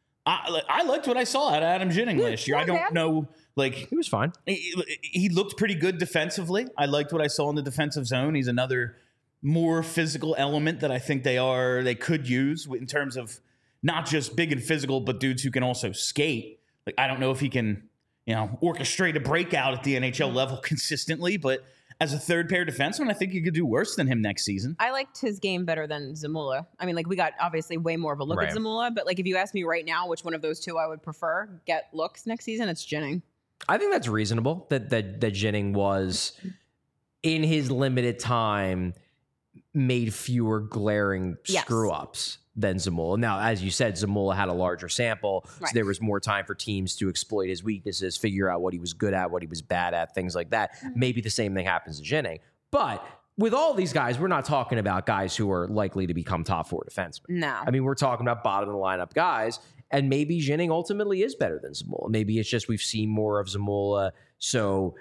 I liked what I saw out of Adam Ginning last year. I don't know, like, He was fine. he looked pretty good defensively. I liked what I saw in the defensive zone. He's another more physical element that I think they could use in terms of not just big and physical, but dudes who can also skate. Like, I don't know if he can, orchestrate a breakout at the NHL level consistently, but as a third pair defenseman, I think you could do worse than him next season. I liked his game better than Zamula. I mean, like, we got obviously way more of a look at Zamula, but like, if you ask me right now which one of those two I would prefer get looks next season, it's Ginning. I think that's reasonable that Ginning was, in his limited time, made fewer glaring screw-ups than Zamula. Now, as you said, Zamula had a larger sample, so there was more time for teams to exploit his weaknesses, figure out what he was good at, what he was bad at, things like that. Maybe the same thing happens to Ginning. But with all these guys, we're not talking about guys who are likely to become top 4 defensemen. No. I mean, we're talking about bottom-of-the-lineup guys, and maybe Ginning ultimately is better than Zamula. Maybe it's just we've seen more of Zamula, so,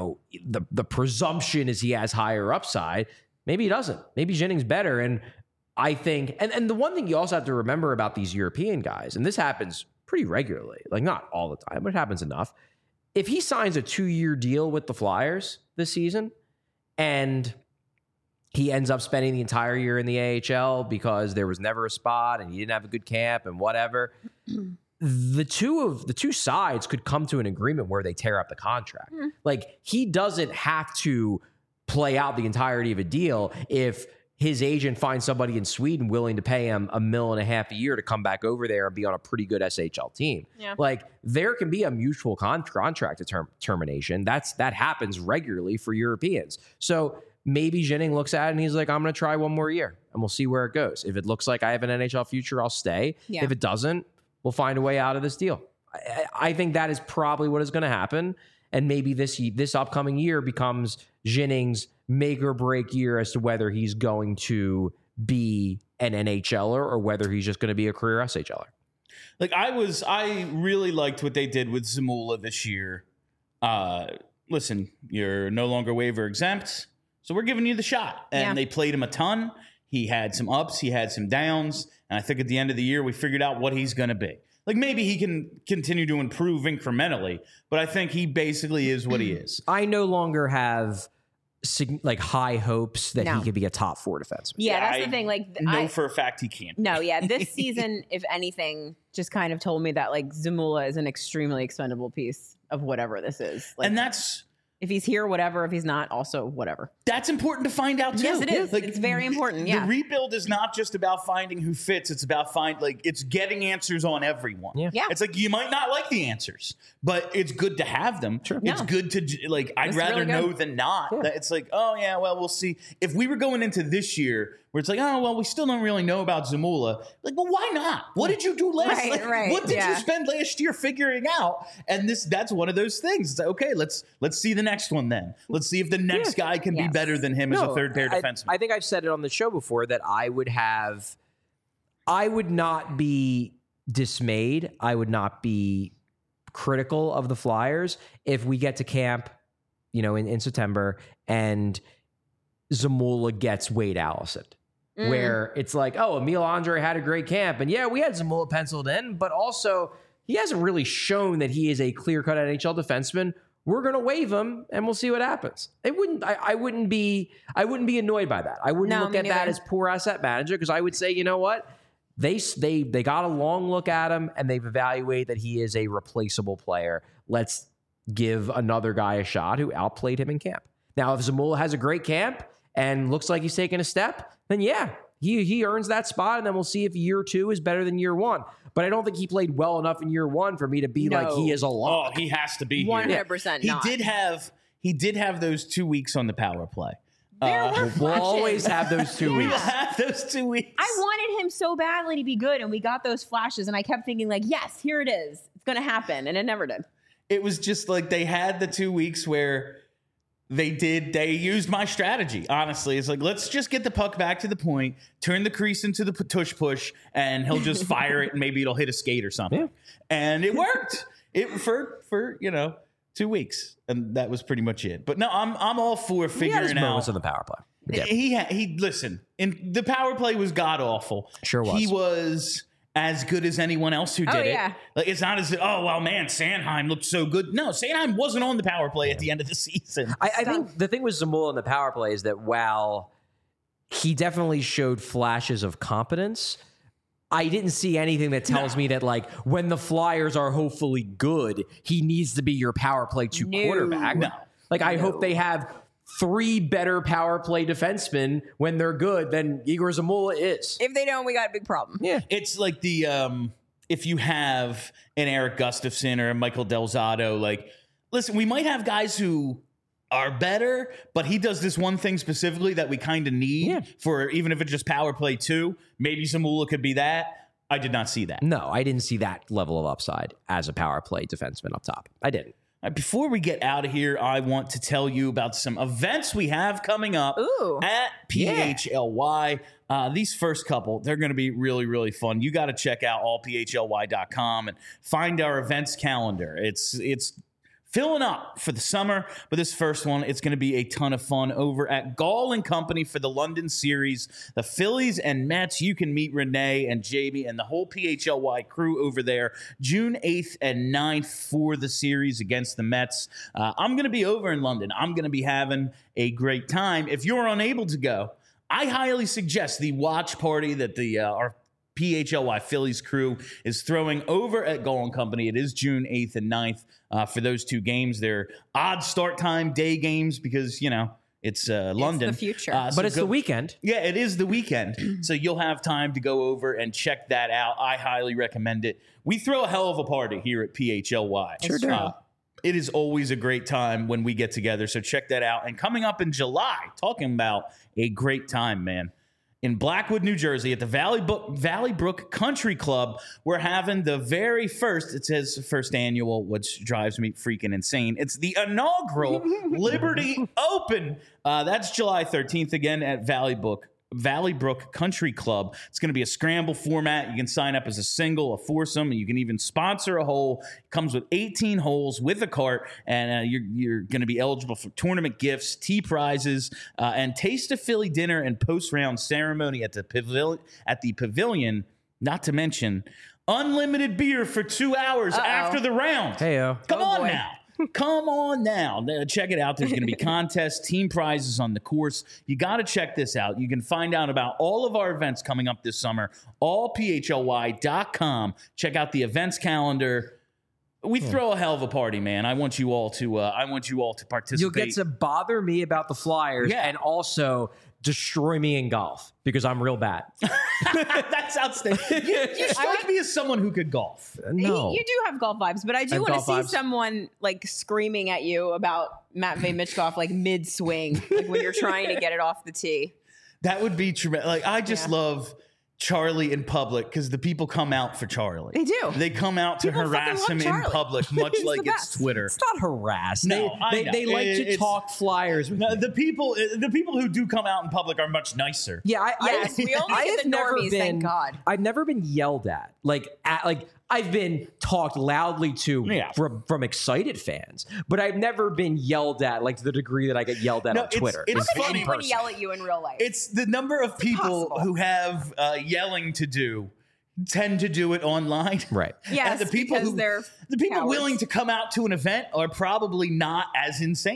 the presumption is he has higher upside. Maybe he doesn't. Maybe Ginning's better, and I think, and the one thing you also have to remember about these European guys, and this happens pretty regularly, like not all the time, but it happens enough. If he signs a 2-year deal with the Flyers this season and he ends up spending the entire year in the AHL because there was never a spot and he didn't have a good camp and whatever, the two sides could come to an agreement where they tear up the contract. Like, he doesn't have to play out the entirety of a deal if his agent finds somebody in Sweden willing to pay him $1.5 million a year to come back over there and be on a pretty good SHL team. Yeah. Like, there can be a mutual contract termination. That happens regularly for Europeans. So maybe Ginning looks at it and he's like, I'm going to try one more year and we'll see where it goes. If it looks like I have an NHL future, I'll stay. Yeah. If it doesn't, we'll find a way out of this deal. I think that is probably what is going to happen. And maybe this upcoming year becomes Ginning's make or break year as to whether he's going to be an NHLer or whether he's just going to be a career SHLer. Like, I really liked what they did with Zamula this year. Listen, you're no longer waiver exempt, so we're giving you the shot. And they played him a ton. He had some ups, he had some downs, and I think at the end of the year we figured out what he's going to be. Like, maybe he can continue to improve incrementally, but I think he basically is what he is. I no longer have high hopes that he could be a top 4 defenseman. Yeah, that's the thing. Like, know for a fact he can't. No, yeah. This season, if anything, just kind of told me that, like, Zamula is an extremely expendable piece of whatever this is. Like, and that's... if he's here, whatever. If he's not, also whatever. That's important to find out, too. Yes, it is. Like, it's very important, The rebuild is not just about finding who fits. It's about it's getting answers on everyone. Yeah. It's like, you might not like the answers, but it's good to have them. Sure. It's good to, like, I'd rather really know than not. Yeah. It's like, oh, yeah, well, we'll see. If we were going into this year where it's like, oh, well, we still don't really know about Zamula. Like, well, why not? What did you do last? What did you spend last year figuring out? And that's one of those things. It's like, okay, let's see the next one then. Let's see if the next guy can be better than him as a third pair defenseman. I think I've said it on the show before that I would not be dismayed. I would not be critical of the Flyers if we get to camp, in September and Zamula gets Wade Allison. Where it's like, oh, Emil Andre had a great camp. And yeah, we had Zamula penciled in, but also he hasn't really shown that he is a clear-cut NHL defenseman. We're going to waive him and we'll see what happens. I wouldn't be annoyed by that. I wouldn't look at that as poor asset manager, because I would say, you know what? They got a long look at him and they've evaluated that he is a replaceable player. Let's give another guy a shot who outplayed him in camp. Now, if Zamula has a great camp and looks like he's taking a step, then yeah, He earns that spot, and then we'll see if year 2 is better than year 1. But I don't think he played well enough in year 1 for me to be like he is a lock. Oh, he has to be 100% here. not. He did have those 2 weeks on the power play. There were We'll flashes. always have those 2 We weeks. have those 2 weeks. I wanted him so badly to be good, and we got those flashes, and I kept thinking, like, yes, here it is. It's going to happen, and it never did. It was just like they had the 2 weeks where they used my strategy. Honestly, it's like, let's just get the puck back to the point, turn the crease into the push, and he'll just fire it, and maybe it'll hit a skate or something. Yeah. And it worked. For 2 weeks, and that was pretty much it. But no, I'm all for He had his figuring moments out. on the power play. Yeah. He listen. And the power play was god awful. Sure was. He was as good as anyone else who did yeah. it. Like, it's not as Sanheim looked so good. No, Sanheim wasn't on the power play at the end of the season. I think the thing with Zamula in the power play is that while he definitely showed flashes of competence, I didn't see anything that tells me that, like, when the Flyers are hopefully good, he needs to be your power play 2 quarterback. No. Like, I hope they have 3 better power play defensemen when they're good than Igor Zamula is. If they don't, we got a big problem. Yeah. It's like the if you have an Eric Gustafson or a Michael Delzato, like, listen, we might have guys who are better, but he does this one thing specifically that we kind of need for, even if it's just power play 2. Maybe Zamula could be that. I did not see that. No, I didn't see that level of upside as a power play defenseman up top. I didn't. Before we get out of here, I want to tell you about some events we have coming up at PHLY. These first couple, they're going to be really, really fun. You got to check out allphly.com and find our events calendar. It's filling up for the summer, but this first one, it's going to be a ton of fun over at Gall & Company for the London series. The Phillies and Mets, you can meet Renee and Jamie and the whole PHLY crew over there June 8th and 9th for the series against the Mets. I'm going to be over in London. I'm going to be having a great time. If you're unable to go, I highly suggest the watch party that our PHLY Phillies crew is throwing over at Gall & Company. It is June 8th and 9th for those 2 games. They're odd start time day games because, it's London. It's the future. But it's the weekend. Yeah, it is the weekend. So you'll have time to go over and check that out. I highly recommend it. We throw a hell of a party here at PHLY. Sure do. It is always a great time when we get together. So check that out. And coming up in July, talking about a great time, man. In Blackwood, New Jersey, at the Valley Brook Country Club, we're having the very first, it says first annual, which drives me freaking insane. It's the inaugural Liberty Open. That's July 13th again at Valley Brook Country Club. It's going to be a scramble format. You can sign up as a single, a foursome, and you can even sponsor a hole. It comes with 18 holes with a cart, and you're going to be eligible for tournament gifts, tee prizes, and Taste of Philly dinner and post-round ceremony at the pavilion. Not to mention unlimited beer for 2 hours after the round. Heyo. Come on boy. now. Come on now. Check it out. There's going to be contests, team prizes on the course. You got to check this out. You can find out about all of our events coming up this summer, allphly.com. Check out the events calendar. We throw a hell of a party, man. I want you all to participate. You'll get to bother me about the Flyers and also destroy me in golf because I'm real bad. That's outstanding. You strike me as someone who could golf. No. You do have golf vibes, but I do have want to golf see vibes. someone like screaming at you about Matvey Michkov like mid swing, like when you're trying to get it off the tee. That would be tremendous. Like, I just love Charlie in public because the people come out for Charlie. They do. They come out to People harass fucking him love in Charlie. public, much He's like the it's best. Twitter. It's not harass. No, I know. They like to It's- talk Flyers with No, me. the people who do come out in public are much nicer. Yeah, Yes, we only I get have the never normies, thank God. I've never been yelled at. I've been talked loudly to from excited fans, but I've never been yelled at like to the degree that I get yelled at on Twitter. It's How can funny. anyone yell at you in real life? It's the number of people impossible. who have yelling to do tend to do it online. Right. Yes, And the people because they're the people cowards. willing to come out to an event are probably not as insane.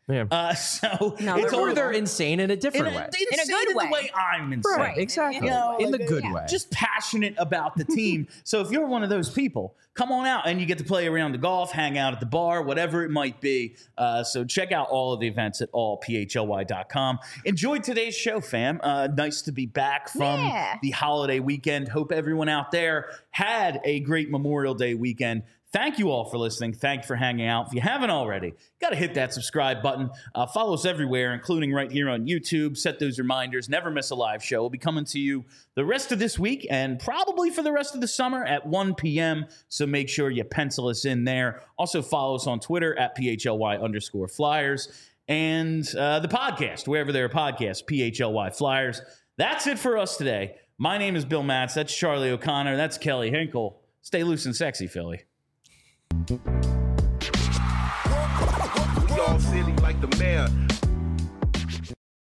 Yeah. So No, it's they're Or all they're insane in a different way. in a good the way. way I'm insane. Right, exactly. You know, in the like, good yeah. way. Just passionate about the team. So if you're one of those people, come on out and you get to play around the golf, hang out at the bar, whatever it might be. So check out all of the events at allphly.com. Enjoyed today's show, fam. Nice to be back from the holiday weekend. Hope everyone out there had a great Memorial Day weekend. Thank you all for listening. Thank you for hanging out. If you haven't already, got to hit that subscribe button. Follow us everywhere, including right here on YouTube. Set those reminders. Never miss a live show. We'll be coming to you the rest of this week and probably for the rest of the summer at 1 p.m. So make sure you pencil us in there. Also follow us on Twitter at PHLY_Flyers and the podcast, wherever there are podcasts, PHLY Flyers. That's it for us today. My name is Bill Matz. That's Charlie O'Connor. That's Kelly Hinkle. Stay loose and sexy, Philly. We all silly like the mayor.